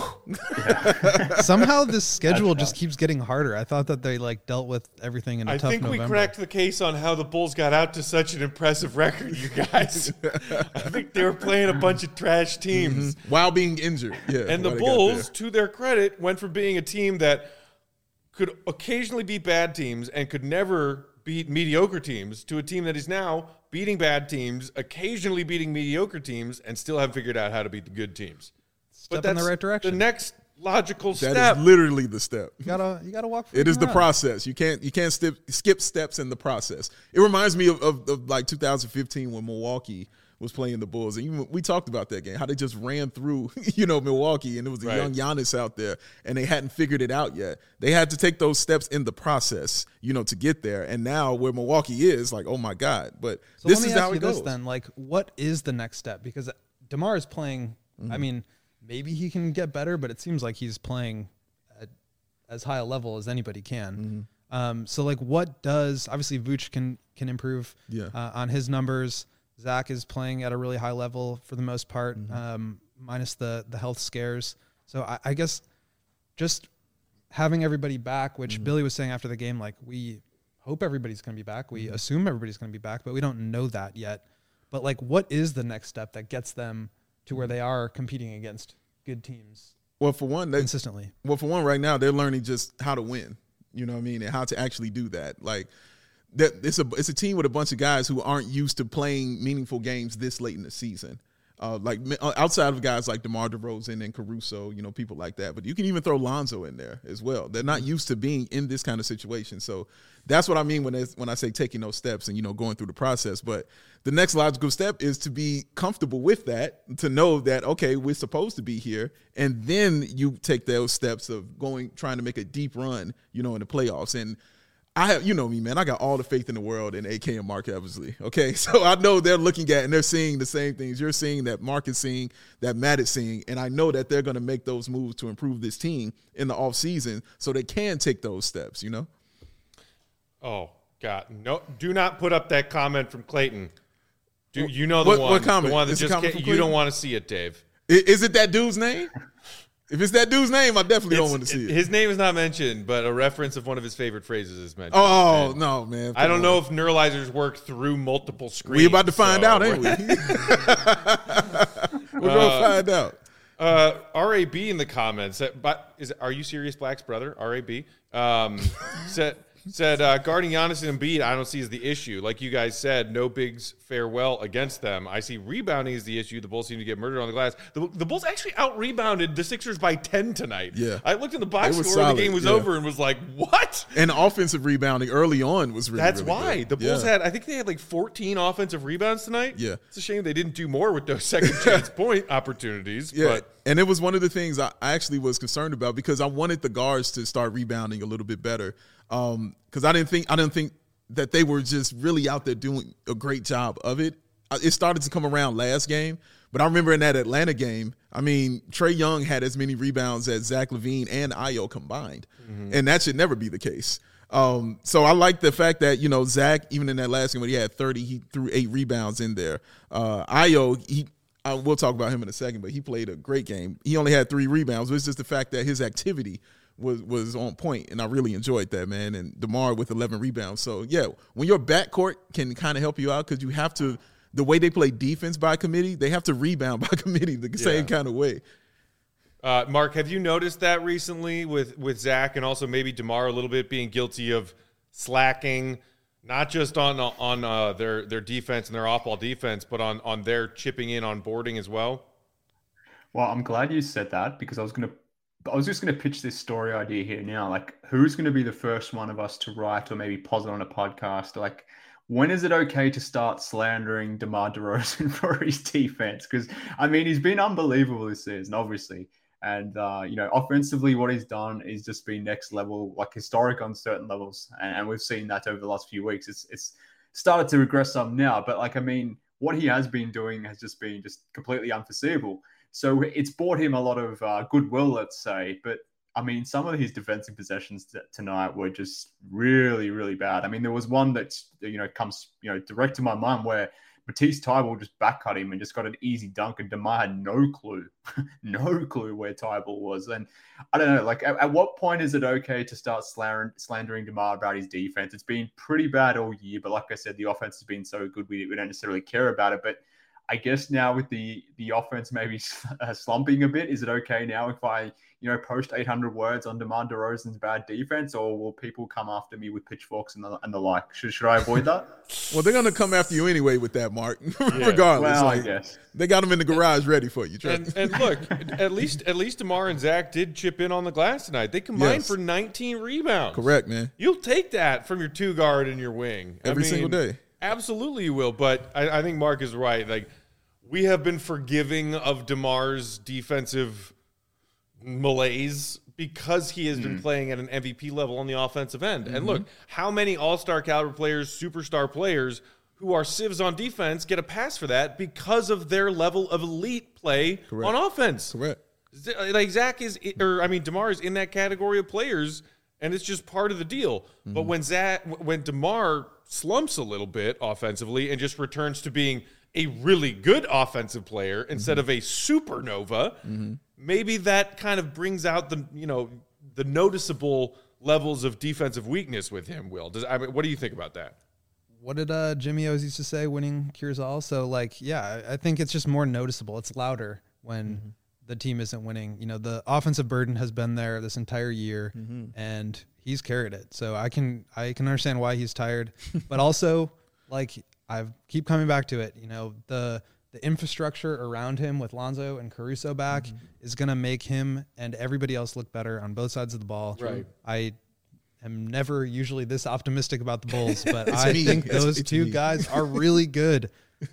Somehow this schedule just keeps getting harder. I thought that they dealt with everything in a tough think November. we cracked the case on how the Bulls got out to such an impressive record, you guys. I think they were playing a bunch of trash teams. While being injured. Yeah. And the while they got Bulls, there. to their credit, went from being a team that could occasionally beat bad teams and could never beat mediocre teams to a team that is now beating bad teams, occasionally beating mediocre teams, and still haven't figured out how to beat the good teams. Step in the right direction. The next logical That step. is literally the step. You gotta walk. It is the around. process. You can't skip steps in the process. It reminds me of like 2015 when Milwaukee was playing the Bulls, and we talked about that game, how they just ran through, Milwaukee, and it was a young Giannis out there, and they hadn't figured it out yet. They had to take those steps in the process, to get there. And now where Milwaukee is, like, oh my God! But So this let me is ask how you it goes. this then: what is the next step? Because DeMar is playing. I mean, maybe he can get better, but it seems like he's playing at as high a level as anybody can. So what does obviously Vooch can improve on his numbers. Zach is playing at a really high level for the most part, minus the health scares. So I guess just having everybody back, which Billy was saying after the game, we hope everybody's going to be back. We assume everybody's going to be back, but we don't know that yet. But what is the next step that gets them to where they are competing against good teams Well, for one, consistently? right now they're learning just how to win. You know what I mean, and how to actually do that. That it's a team with a bunch of guys who aren't used to playing meaningful games this late in the season. Outside of guys like DeMar DeRozan and Caruso, people like that. But you can even throw Lonzo in there as well. They're not used to being in this kind of situation. So that's what I mean when I say taking those steps and, going through the process. But the next logical step is to be comfortable with that, to know that, okay, we're supposed to be here. And then you take those steps of trying to make a deep run, in the playoffs. And I have, me, man, I got all the faith in the world in AK and Mark Eversley. Okay. So I know they're looking at and they're seeing the same things you're seeing, that Mark is seeing, that Matt is seeing. And I know that they're going to make those moves to improve this team in the offseason so they can take those steps, Oh, God. No, do not put up that comment from Clayton. Dude, you know the one. What comment? The one that Is it just comment from you Cleveland? don't want to see it, Dave. Is it that dude's name? If it's that dude's name, I definitely don't want to see it. His name is not mentioned, but a reference of one of his favorite phrases is mentioned. Oh, no, man. I don't know if neuralizers work through multiple screens. We about to find out, ain't we? We're going to find out. RAB in the comments, are you serious, Black's brother? RAB said guarding Giannis and Embiid, I don't see as the issue. Like you guys said, no bigs fare well against them. I see rebounding is the issue. The Bulls seem to get murdered on the glass. The Bulls actually out-rebounded the Sixers by 10 tonight. Yeah. I looked in the box score solid, when the game was over and was like, what? And offensive rebounding early on was really That's really why. good. The Bulls I think they had like 14 offensive rebounds tonight. Yeah. It's a shame they didn't do more with those second chance point opportunities. Yeah. But And it was one of the things I actually was concerned about because I wanted the guards to start rebounding a little bit better. Because I didn't think that they were just really out there doing a great job of it. It started to come around last game, but I remember in that Atlanta game, I mean, Trae Young had as many rebounds as Zach LaVine and Ayo combined, and that should never be the case. So I like the fact that, Zach, even in that last game when he had 30, he threw 8 rebounds in there. Ayo, we'll talk about him in a second, but he played a great game. He only had 3 rebounds. It was just the fact that his activity was on point, and I really enjoyed that, man. And DeMar with 11 rebounds. So, yeah, when your backcourt can kind of help you out because you have to – the way they play defense by committee, they have to rebound by committee the same kind of way. Mark, have you noticed that recently with Zach and also maybe DeMar a little bit being guilty of slacking, not just on their defense and their off-ball defense, but on their chipping in on boarding as well? Well, I'm glad you said that because I was just going to pitch this story idea here now. Like, who's going to be the first one of us to write or maybe posit on a podcast? Like, when is it okay to start slandering DeMar DeRozan for his defense? Because, I mean, he's been unbelievable this season, obviously. And, offensively, what he's done is just been next level, like historic on certain levels. And we've seen that over the last few weeks. It's started to regress some now. But, what he has been doing has just been completely unforeseeable. So it's bought him a lot of goodwill, let's say. But, I mean, some of his defensive possessions tonight were just really, really bad. I mean, there was one that, comes, direct to my mind where Matisse Thybulle just backcut him and just got an easy dunk, and DeMar had no clue where Thybulle was. And I don't know, at what point is it okay to start slandering DeMar about his defense? It's been pretty bad all year, but like I said, the offense has been so good, we don't necessarily care about it. But I guess now with the offense maybe slumping a bit, is it okay now if I, post 800 words on DeMar DeRozan's bad defense, or will people come after me with pitchforks and the like? Should I avoid that? Well, they're going to come after you anyway with that, Mark, regardless. Well, I guess. They got him in the garage ready for you. And look, at least DeMar and Zach did chip in on the glass tonight. They combined for 19 rebounds. Correct, man. You'll take that from your 2 guard and your wing. Every single day. Absolutely you will, but I think Mark is right. Like, we have been forgiving of DeMar's defensive malaise because he has been playing at an MVP level on the offensive end. And look, how many all-star caliber players, superstar players who are civs on defense get a pass for that because of their level of elite play on offense? Correct. Like DeMar is in that category of players, and it's just part of the deal. But when DeMar slumps a little bit offensively and just returns to being a really good offensive player instead of a supernova, maybe that kind of brings out the noticeable levels of defensive weakness with him, Will. What do you think about that? What did Jimmy always used to say, winning cures all? So, I think it's just more noticeable. It's louder when the team isn't winning. The offensive burden has been there this entire year, and he's carried it. So I can understand why he's tired. But also, I keep coming back to it. The infrastructure around him with Lonzo and Caruso back is going to make him and everybody else look better on both sides of the ball. Right. I am never usually this optimistic about the Bulls, but I think those two guys are really good.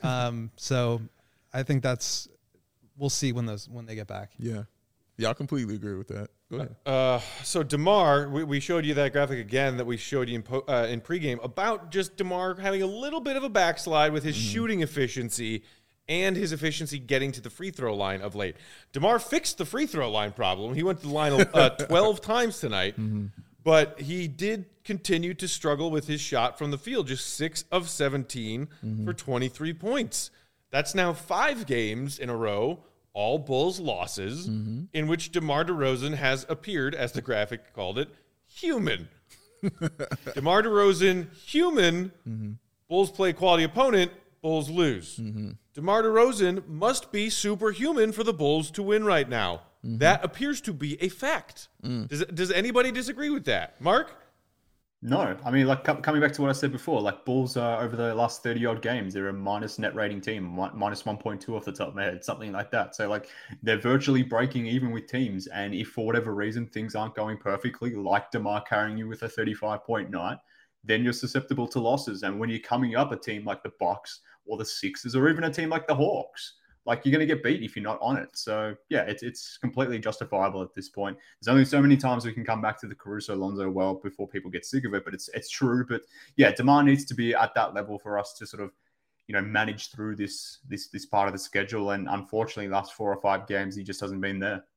So I think we'll see when they get back. Yeah. I completely agree with that. Go ahead. So DeMar, we showed you that graphic again that we showed you in pregame about just DeMar having a little bit of a backslide with his shooting efficiency and his efficiency getting to the free throw line of late. DeMar fixed the free throw line problem. He went to the line 12 times tonight. But he did continue to struggle with his shot from the field, just 6 of 17 for 23 points. That's now 5 games in a row, all Bulls losses, in which DeMar DeRozan has appeared, as the graphic called it, human. DeMar DeRozan, human. Bulls play quality opponent, Bulls lose. DeMar DeRozan must be superhuman for the Bulls to win right now. That appears to be a fact. Does anybody disagree with that? Mark? No. I mean, like, coming back to what I said before, like, Bulls over the last 30-odd games, they're a minus net rating team, minus 1.2 off the top of my head, something like that. So, like, they're virtually breaking even with teams. And if for whatever reason things aren't going perfectly, like DeMar carrying you with a 35-point night, then you're susceptible to losses. And when you're coming up a team like the Bucks or the Sixers or even a team like the Hawks, like, you're going to get beat if you're not on it. So, yeah, it's completely justifiable at this point. There's only so many times we can come back to the Caruso-Lonzo well before people get sick of it, but it's true. But, yeah, DeMar needs to be at that level for us to sort of, manage through this part of the schedule. And unfortunately, last 4 or 5 games, he just hasn't been there.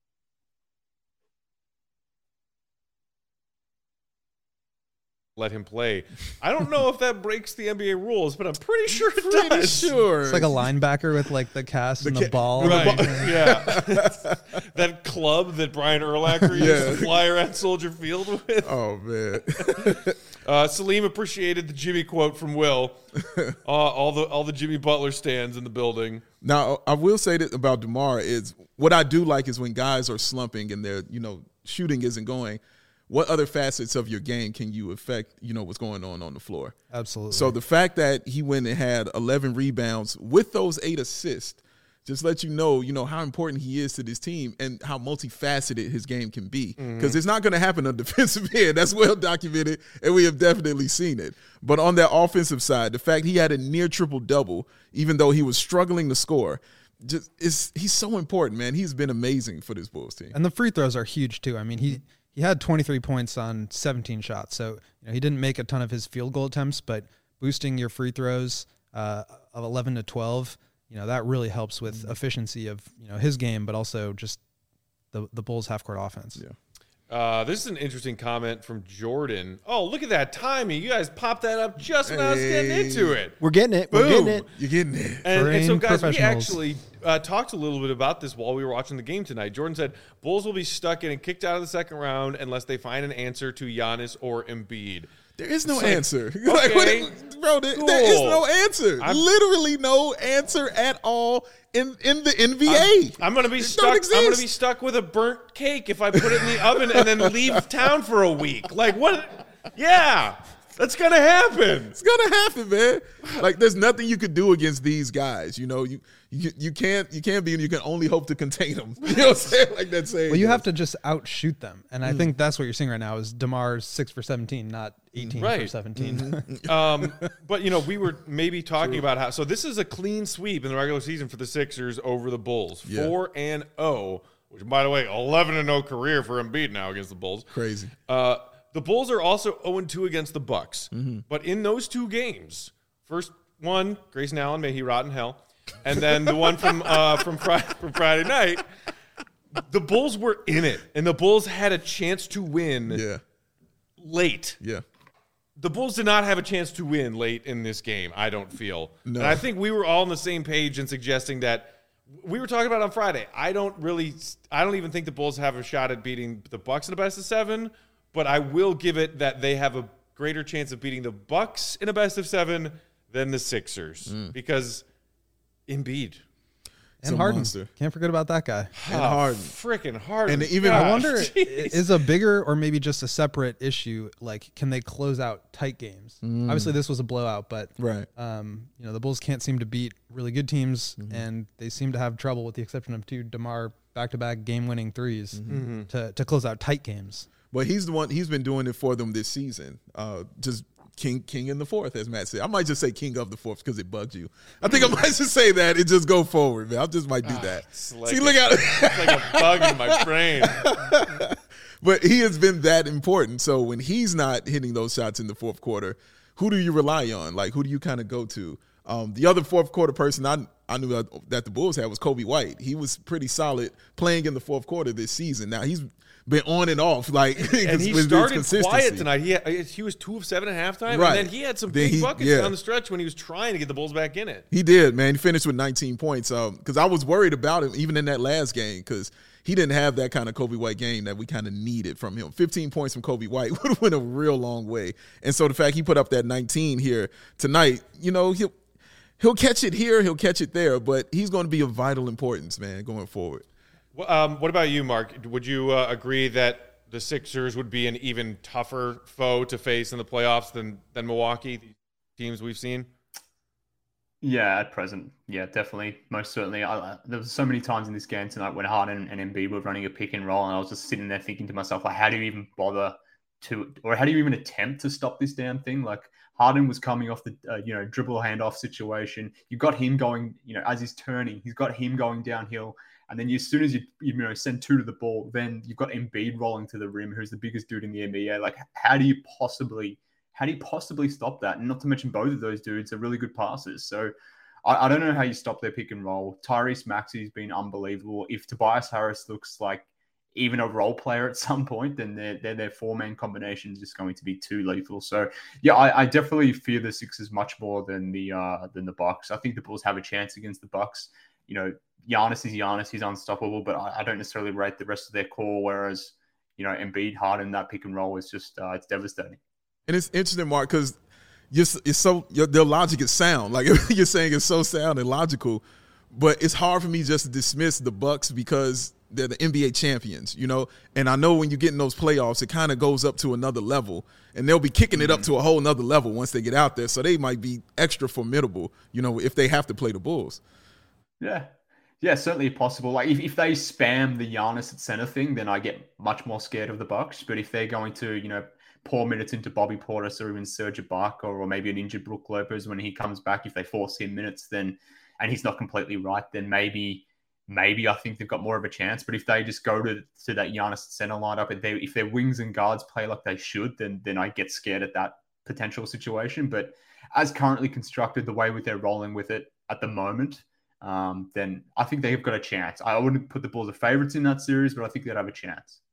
Let him play. I don't know if that breaks the NBA rules, but I'm pretty sure it does. Sure. It's like a linebacker with like the cast and the ball. Right. Yeah. That club that Brian Urlacher used to fly around Soldier Field with. Oh, man. Salim appreciated the Jimmy quote from Will. All the Jimmy Butler stands in the building. Now, I will say that about DeMar is what I do like is when guys are slumping and their shooting isn't going. What other facets of your game can you affect, what's going on the floor? Absolutely. So the fact that he went and had 11 rebounds with those 8 assists just let you know how important he is to this team and how multifaceted his game can be. Because it's not going to happen on defensive end. That's well documented, and we have definitely seen it. But on that offensive side, the fact he had a near triple-double, even though he was struggling to score, he's so important, man. He's been amazing for this Bulls team. And the free throws are huge, too. I mean, he had 23 points on 17 shots. So, he didn't make a ton of his field goal attempts, but boosting your free throws of 11 to 12, that really helps with efficiency of, his game, but also just the Bulls half-court offense. Yeah. This is an interesting comment from Jordan. Oh, look at that timing. You guys popped that up just when I was getting into it. We're getting it. Boom. We're getting it. You're getting it. And so, guys, we actually talked a little bit about this while we were watching the game tonight. Jordan said Bulls will be stuck getting kicked out of the second round unless they find an answer to Giannis or Embiid. There is no answer. Okay, bro, there is no answer. Literally no answer at all in the NBA. I'm gonna be stuck. I'm gonna be stuck with a burnt cake if I put it in the oven and then leave town for a week. Like what? Yeah, that's gonna happen. It's gonna happen, man. Like there's nothing you could do against these guys. You can't be, and you can only hope to contain them. You know what I'm saying? Like that saying. Well, you have to just outshoot them, and I think that's what you're seeing right now is DeMar's 6 for 17, not 18 for 17. But we were maybe talking about how. So this is a clean sweep in the regular season for the Sixers over the Bulls, 4-0. Which, by the way, 11-0 career for Embiid now against the Bulls. Crazy. The Bulls are also 0-2 against the Bucks. But in those 2 games, first one, Grayson Allen, may he rot in hell. And then the one from Friday night, the Bulls were in it, and the Bulls had a chance to win late. Yeah. The Bulls did not have a chance to win late in this game, I don't feel. No. And I think we were all on the same page in suggesting that we were talking about on Friday. I don't even think the Bulls have a shot at beating the Bucks in a best of 7, but I will give it that they have a greater chance of beating the Bucks in a best of 7 than the Sixers because Embiid and Harden. Can't forget about that guy. And Harden. Freaking Harden. And even I wonder, is a bigger or maybe just a separate issue, like, can they close out tight games? Obviously, this was a blowout, but the Bulls can't seem to beat really good teams, and they seem to have trouble, with the exception of 2 DeMar back-to-back game-winning threes, to close out tight games. But he's the one. He's been doing it for them this season. Just king in the fourth, as Matt said. I might just say king of the fourth because it bugged you. I think I might just say that and just go forward, man. I just might do that. Like look out! It's like a bug in my brain. But he has been that important. So when he's not hitting those shots in the fourth quarter, who do you rely on? Like, who do you kind of go to? The other fourth quarter person I knew that the Bulls had was Kobe White. He was pretty solid playing in the fourth quarter this season. Now he's been on and off, like, and he started quiet tonight. He was 2 of 7 at halftime, right. and then he had some big buckets down the stretch when he was trying to get the Bulls back in it. He did, man. He finished with 19 points. Because I was worried about him even in that last game because he didn't have that kind of Kobe White game that we kind of needed from him. 15 points from Kobe White would have went a real long way. And so the fact he put up that 19 here tonight, you know, he'll catch it here, he'll catch it there, but he's going to be of vital importance, man, going forward. What about you, Mark? Would you agree that the Sixers would be an even tougher foe to face in the playoffs than Milwaukee, the teams we've seen? Yeah, at present. Yeah, definitely. Most certainly. There was so many times in this game tonight when Harden and Embiid were running a pick and roll, and I was just sitting there thinking to myself, like, how do you even bother to, or how do you even attempt to stop this damn thing? Like, Harden was coming off the, dribble handoff situation. You got him going, as he's turning, he's got him going downhill. And then as soon as you send 2 to the ball, then you've got Embiid rolling to the rim, who's the biggest dude in the NBA. Like, how do you possibly stop that? And not to mention both of those dudes are really good passers. So I don't know how you stop their pick and roll. Tyrese Maxey's been unbelievable. If Tobias Harris looks like even a role player at some point, then their 4-man combination is just going to be too lethal. So yeah, I definitely fear the Sixers much more than the Bucks. I think the Bulls have a chance against the Bucks. Giannis is Giannis. He's unstoppable, but I don't necessarily rate the rest of their core, whereas, Embiid, Harden, that pick and roll is just, it's devastating. And it's interesting, Mark, because their logic is sound. Like, you're saying it's so sound and logical, but it's hard for me just to dismiss the Bucks because they're the NBA champions, And I know when you get in those playoffs, it kind of goes up to another level, and they'll be kicking it up to a whole nother level once they get out there. So they might be extra formidable, if they have to play the Bulls. Yeah, certainly possible. Like if they spam the Giannis at center thing, then I get much more scared of the Bucks. But if they're going to, pour minutes into Bobby Portis or even Serge Ibaka or maybe an injured Brook Lopez when he comes back, if they force him minutes, then and he's not completely right, then maybe I think they've got more of a chance. But if they just go to that Giannis center lineup, if their wings and guards play like they should, then I get scared at that potential situation. But as currently constructed, the way they're rolling with it at the moment, then I think they've got a chance. I wouldn't put the Bulls as favorites in that series, but I think they'd have a chance.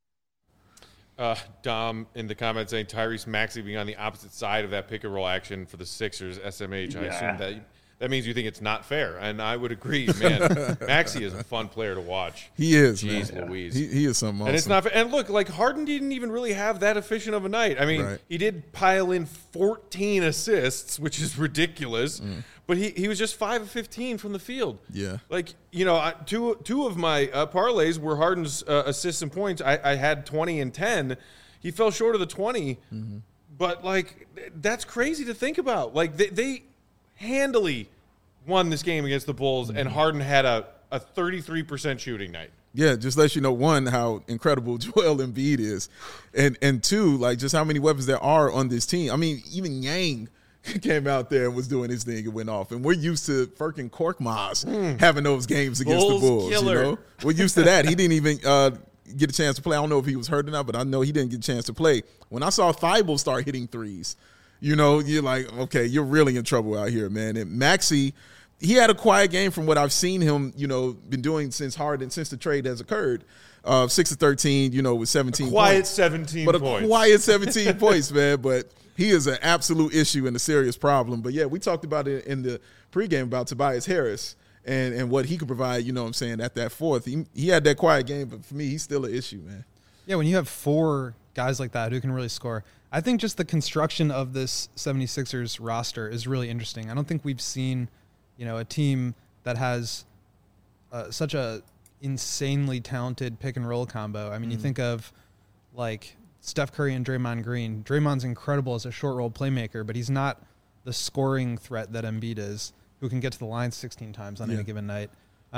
Dom in the comments saying Tyrese Maxey being on the opposite side of that pick and roll action for the Sixers, SMH. I assume that means you think it's not fair, and I would agree, man. Maxey is a fun player to watch. He is, Jeez man. Louise. He is something awesome. And it's not fair. And look, like Harden didn't even really have that efficient of a night. I mean, He did pile in 14 assists, which is ridiculous. But he was just 5 of 15 from the field. Yeah. Like, two of my parlays were Harden's assists and points. I had 20 and 10. He fell short of the 20. Mm-hmm. But, like, that's crazy to think about. Like, they handily won this game against the Bulls, and Harden had a 33% shooting night. Yeah, just let you know, one, how incredible Joel Embiid is, and two, like, just how many weapons there are on this team. I mean, even Yang came out there and was doing his thing and went off. And we're used to Furkan Korkmaz having those games against the Bulls. Killer. We're used to that. He didn't even get a chance to play. I don't know if he was hurt or not, but I know he didn't get a chance to play. When I saw Thibault start hitting threes, you're like, okay, you're really in trouble out here, man. And Maxey, he had a quiet game from what I've seen him, been doing since the trade has occurred. 6 of 13, with 17 quiet points. 17 but points. A quiet 17 points, man. But he is an absolute issue and a serious problem. But, yeah, we talked about it in the pregame about Tobias Harris and what he could provide, at that fourth. He had that quiet game, but for me, he's still an issue, man. Yeah, when you have 4 guys like that who can really score, I think just the construction of this 76ers roster is really interesting. I don't think we've seen, a team that has such a insanely talented pick and roll combo. I mean, you think of like Steph Curry and Draymond Green. Draymond's incredible as a short roll playmaker, but he's not the scoring threat that Embiid is, who can get to the line 16 times on any given night.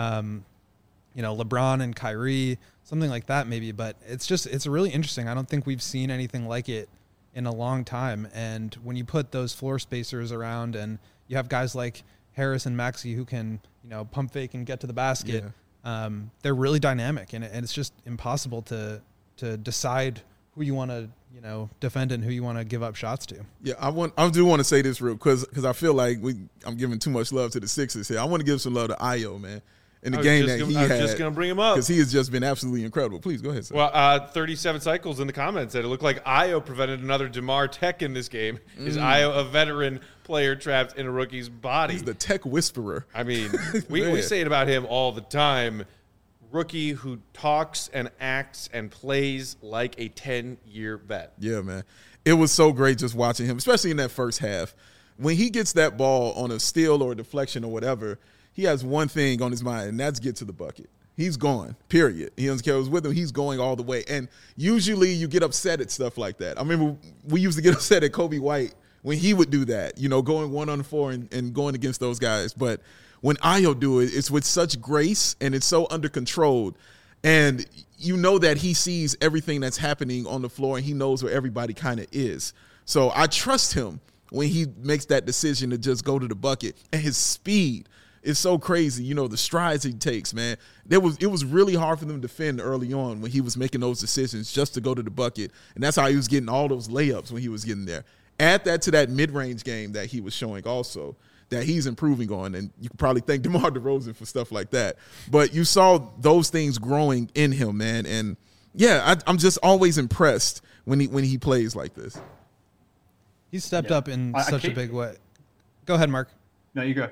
LeBron and Kyrie, something like that maybe, but it's really interesting. I don't think we've seen anything like it in a long time. And when you put those floor spacers around and you have guys like Harris and Maxey who can, pump fake and get to the basket, they're really dynamic, and it's just impossible to decide who you want to, defendant who you want to give up shots to. Yeah, I do want to say this real quick because I feel like I'm giving too much love to the Sixers here. I want to give some love to Ayo, man. In the game that he had. I was just going to bring him up. Because he has just been absolutely incredible. Please, go ahead, sir. Well, 37 cycles in the comments said it looked like Ayo prevented another DeMar Tech in this game. Is Ayo a veteran player trapped in a rookie's body? He's the tech whisperer. I mean, we say it about him all the time. Rookie who talks and acts and plays like a 10-year vet. Yeah, man. It was so great just watching him, especially in that first half. When he gets that ball on a steal or a deflection or whatever, he has one thing on his mind, and that's get to the bucket. He's gone, period. He doesn't care who's with him. He's going all the way. And usually you get upset at stuff like that. I remember we used to get upset at Kobe White when he would do that, going 1-on-4 and going against those guys. But when Ayo do it, it's with such grace and it's so under control. And you know that he sees everything that's happening on the floor and he knows where everybody kind of is. So I trust him when he makes that decision to just go to the bucket. And his speed is so crazy, the strides he takes, man. It was really hard for them to defend early on when he was making those decisions just to go to the bucket. And that's how he was getting all those layups when he was getting there. Add that to that mid-range game that he was showing also that he's improving on. And you can probably thank DeMar DeRozan for stuff like that. But you saw those things growing in him, man. And, yeah, I'm just always impressed when he plays like this. He's stepped up in such a big way. Go ahead, Mark. No, you go.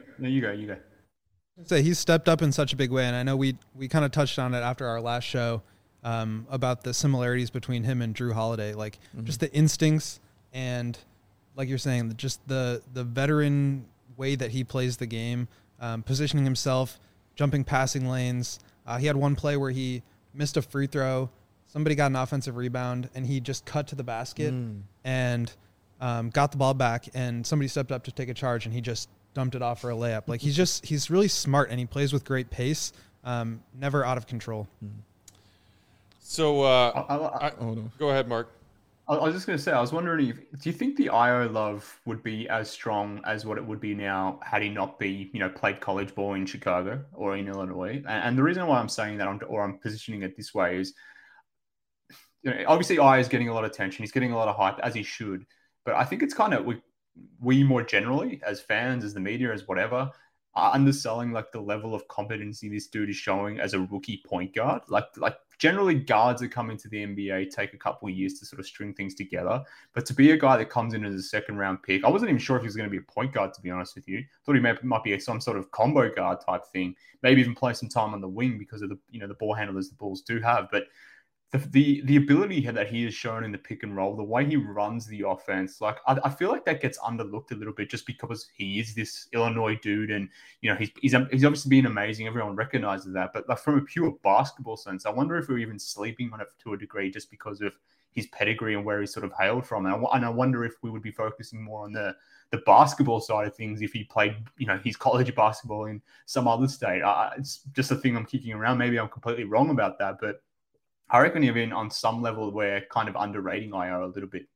Say he's stepped up in such a big way, and I know we kind of touched on it after our last show about the similarities between him and Drew Holiday, just the instincts and, like you're saying, just the veteran way that he plays the game, positioning himself, jumping passing lanes. He had one play where he missed a free throw, somebody got an offensive rebound, and he just cut to the basket and got the ball back, and somebody stepped up to take a charge, and he just dumped it off for a layup. Like he's really smart and he plays with great pace, never out of control. So go ahead, Mark. I was just going to say, I was wondering do you think the Ayo love would be as strong as what it would be now had he not played college ball in Chicago or in Illinois? And the reason why I'm saying that I'm positioning it this way is, obviously Ayo is getting a lot of attention. He's getting a lot of hype, as he should. But I think it's kind of we more generally, as fans, as the media, as whatever, are underselling the level of competency this dude is showing as a rookie point guard. Like generally guards that come into the NBA take a couple of years to sort of string things together. But to be a guy that comes in as a second-round pick, I wasn't even sure if he was going to be a point guard, to be honest with you. I thought he might be some sort of combo guard type thing, maybe even play some time on the wing because of the ball handlers the Bulls do have. But the ability that he has shown in the pick and roll, the way he runs the offense, I feel like that gets underlooked a little bit just because he is this Illinois dude, and he's obviously been amazing. Everyone recognizes that, but from a pure basketball sense, I wonder if we're even sleeping on it to a degree just because of his pedigree and where he's sort of hailed from. And I wonder if we would be focusing more on the basketball side of things if he played his college basketball in some other state. It's just a thing I'm kicking around. Maybe I'm completely wrong about that, but I reckon even on some level we're kind of underrating Ayo a little bit.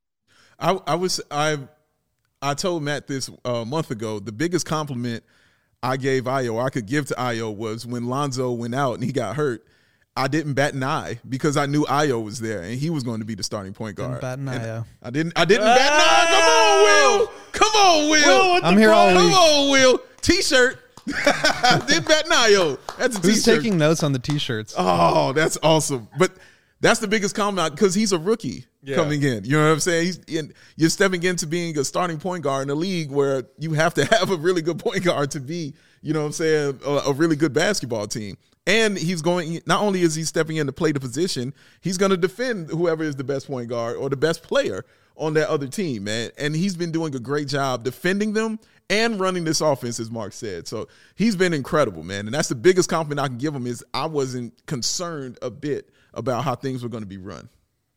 I told Matt this a month ago. The biggest compliment I gave Ayo, or I could give to Ayo, was when Lonzo went out and he got hurt. I didn't bat an eye because I knew Ayo was there and he was going to be the starting point guard. Bat an eye. I didn't bat an eye. Come on, Will. I'm here all week. Come on, Will. T-shirt. Did bat an eye. That's a T-shirt. Who's taking notes on the T-shirts? Oh, that's awesome. But that's the biggest compliment because he's a rookie coming in. You know what I'm saying? You're stepping into being a starting point guard in a league where you have to have a really good point guard to be, you know what I'm saying, a really good basketball team. And he's going, not only is he stepping in to play the position, he's going to defend whoever is the best point guard or the best player on that other team, man. And he's been doing a great job defending them and running this offense, as Mark said. So he's been incredible, man. And that's the biggest compliment I can give him is I wasn't concerned a bit about how things were going to be run.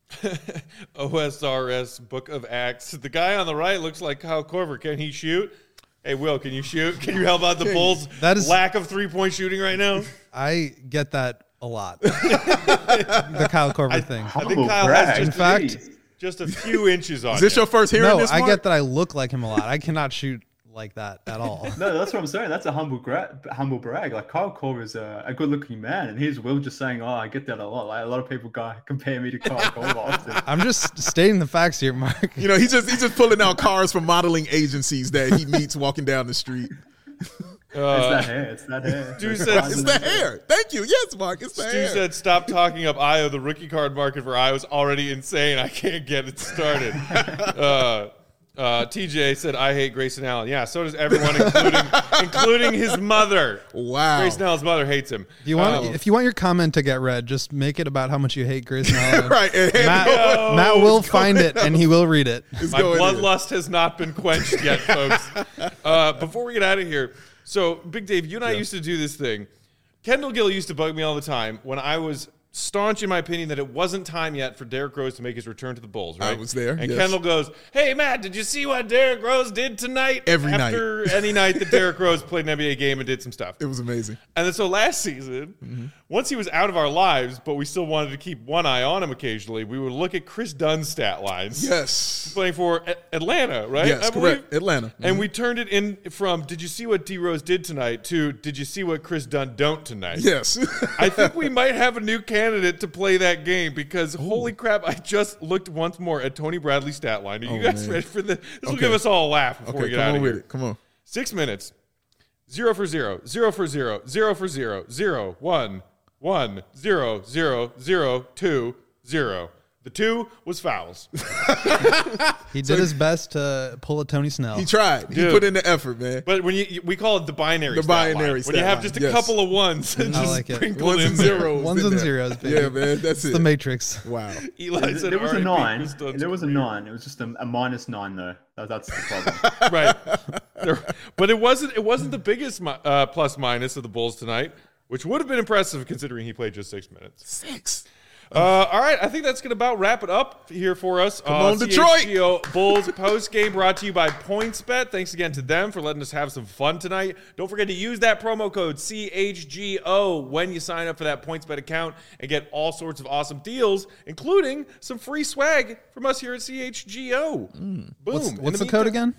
OSRS Book of Acts. The guy on the right looks like Kyle Korver. Can he shoot? Hey, Will, can you shoot? Can you help out the Bulls' lack of three-point shooting right now? I get that a lot. The Kyle Korver thing. I think Kyle has just a few inches on Is this your first hearing this, Mark? I get that I look like him a lot. I cannot shoot like that at all. No, that's what I'm saying. That's a humble brag. Like Kyle Korver is a good-looking man, and here's Will just saying, "Oh, I get that a lot." Like a lot of people compare me to Kyle Korver often. I'm just stating the facts here, Mark. You know, he's just pulling out cars from modeling agencies that he meets walking down the street. It's that hair. Stu said, It's the hair. Thank you. Yes, Mark. It's the hair. Stu said, "Stop talking up Io. The rookie card market for Io is already insane. I can't get it started." TJ said, "I hate Grayson Allen." Yeah, so does everyone, including his mother. Wow. Grayson Allen's mother hates him. If you want your comment to get read, just make it about how much you hate Grayson Allen. Right. Matt will find it and he will read it. My bloodlust has not been quenched yet, folks. Before we get out of here, so Big Dave, you and I used to do this thing. Kendall Gill used to bug me all the time when I was staunch in my opinion that it wasn't time yet for Derrick Rose to make his return to the Bulls, right? I was there. And yes. Kendall goes, "Hey, Matt, did you see what Derrick Rose did tonight?" After any night that Derrick Rose played an NBA game and did some stuff. It was amazing. And then so last season, once he was out of our lives, but we still wanted to keep one eye on him occasionally, we would look at Chris Dunn's stat lines. Yes. Playing for Atlanta, right? Yes, correct. Atlanta. And we turned it in from, "Did you see what D Rose did tonight?" to, "Did you see what Chris Dunn don't tonight?" Yes. I think we might have a new candidate to play that game because holy crap, I just looked once more at Tony Bradley's stat line. Are you guys ready for this? This will give us all a laugh before we get out of here. Come on. 6 minutes. 0 for 0, 0 for 0, 0 for 0, 0, 1, 1, 0, 0, 0, 2, 0. The 2 was fouls. He did his best to pull a Tony Snell. He tried. He put in the effort, man. But when we call it the binary stat line. When you have just a couple of ones and I just like it. sprinkle Ones in and there. zeros. Ones and zeros, baby. Yeah, man. That's It's it. the Matrix. Wow. Eli said There was a RIP 9. Chris Dunn's There was a career. 9. It was just a -9 though. That's the problem. Right. But it wasn't the biggest plus minus of the Bulls tonight, which would have been impressive considering he played just 6 minutes. 6. All right, I think that's going to about wrap it up here for us. Come on, Detroit! CHGO Bulls post game brought to you by PointsBet. Thanks again to them for letting us have some fun tonight. Don't forget to use that promo code CHGO when you sign up for that PointsBet account and get all sorts of awesome deals, including some free swag from us here at CHGO. Boom. What's the code again?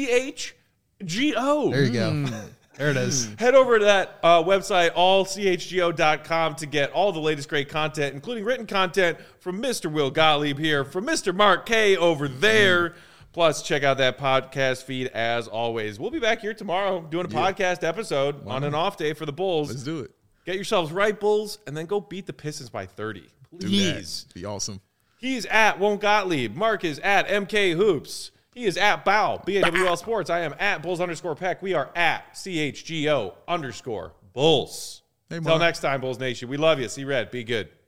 CHGO. There you go. There it is. Head over to that website, allchgo.com, to get all the latest great content, including written content from Mr. Will Gottlieb here, from Mr. Mark K over there. Plus, check out that podcast feed as always. We'll be back here tomorrow doing a podcast episode on an off day for the Bulls. Let's do it. Get yourselves right, Bulls, and then go beat the Pistons by 30. Please. Be awesome. He's at Won't Gottlieb. Mark is at MK Hoops. He is at Bow, BAWL Sports. I am at Bulls_Peck. We are at CHGO_Bulls. Hey, Until next time, Bulls Nation. We love you. See red. Be good.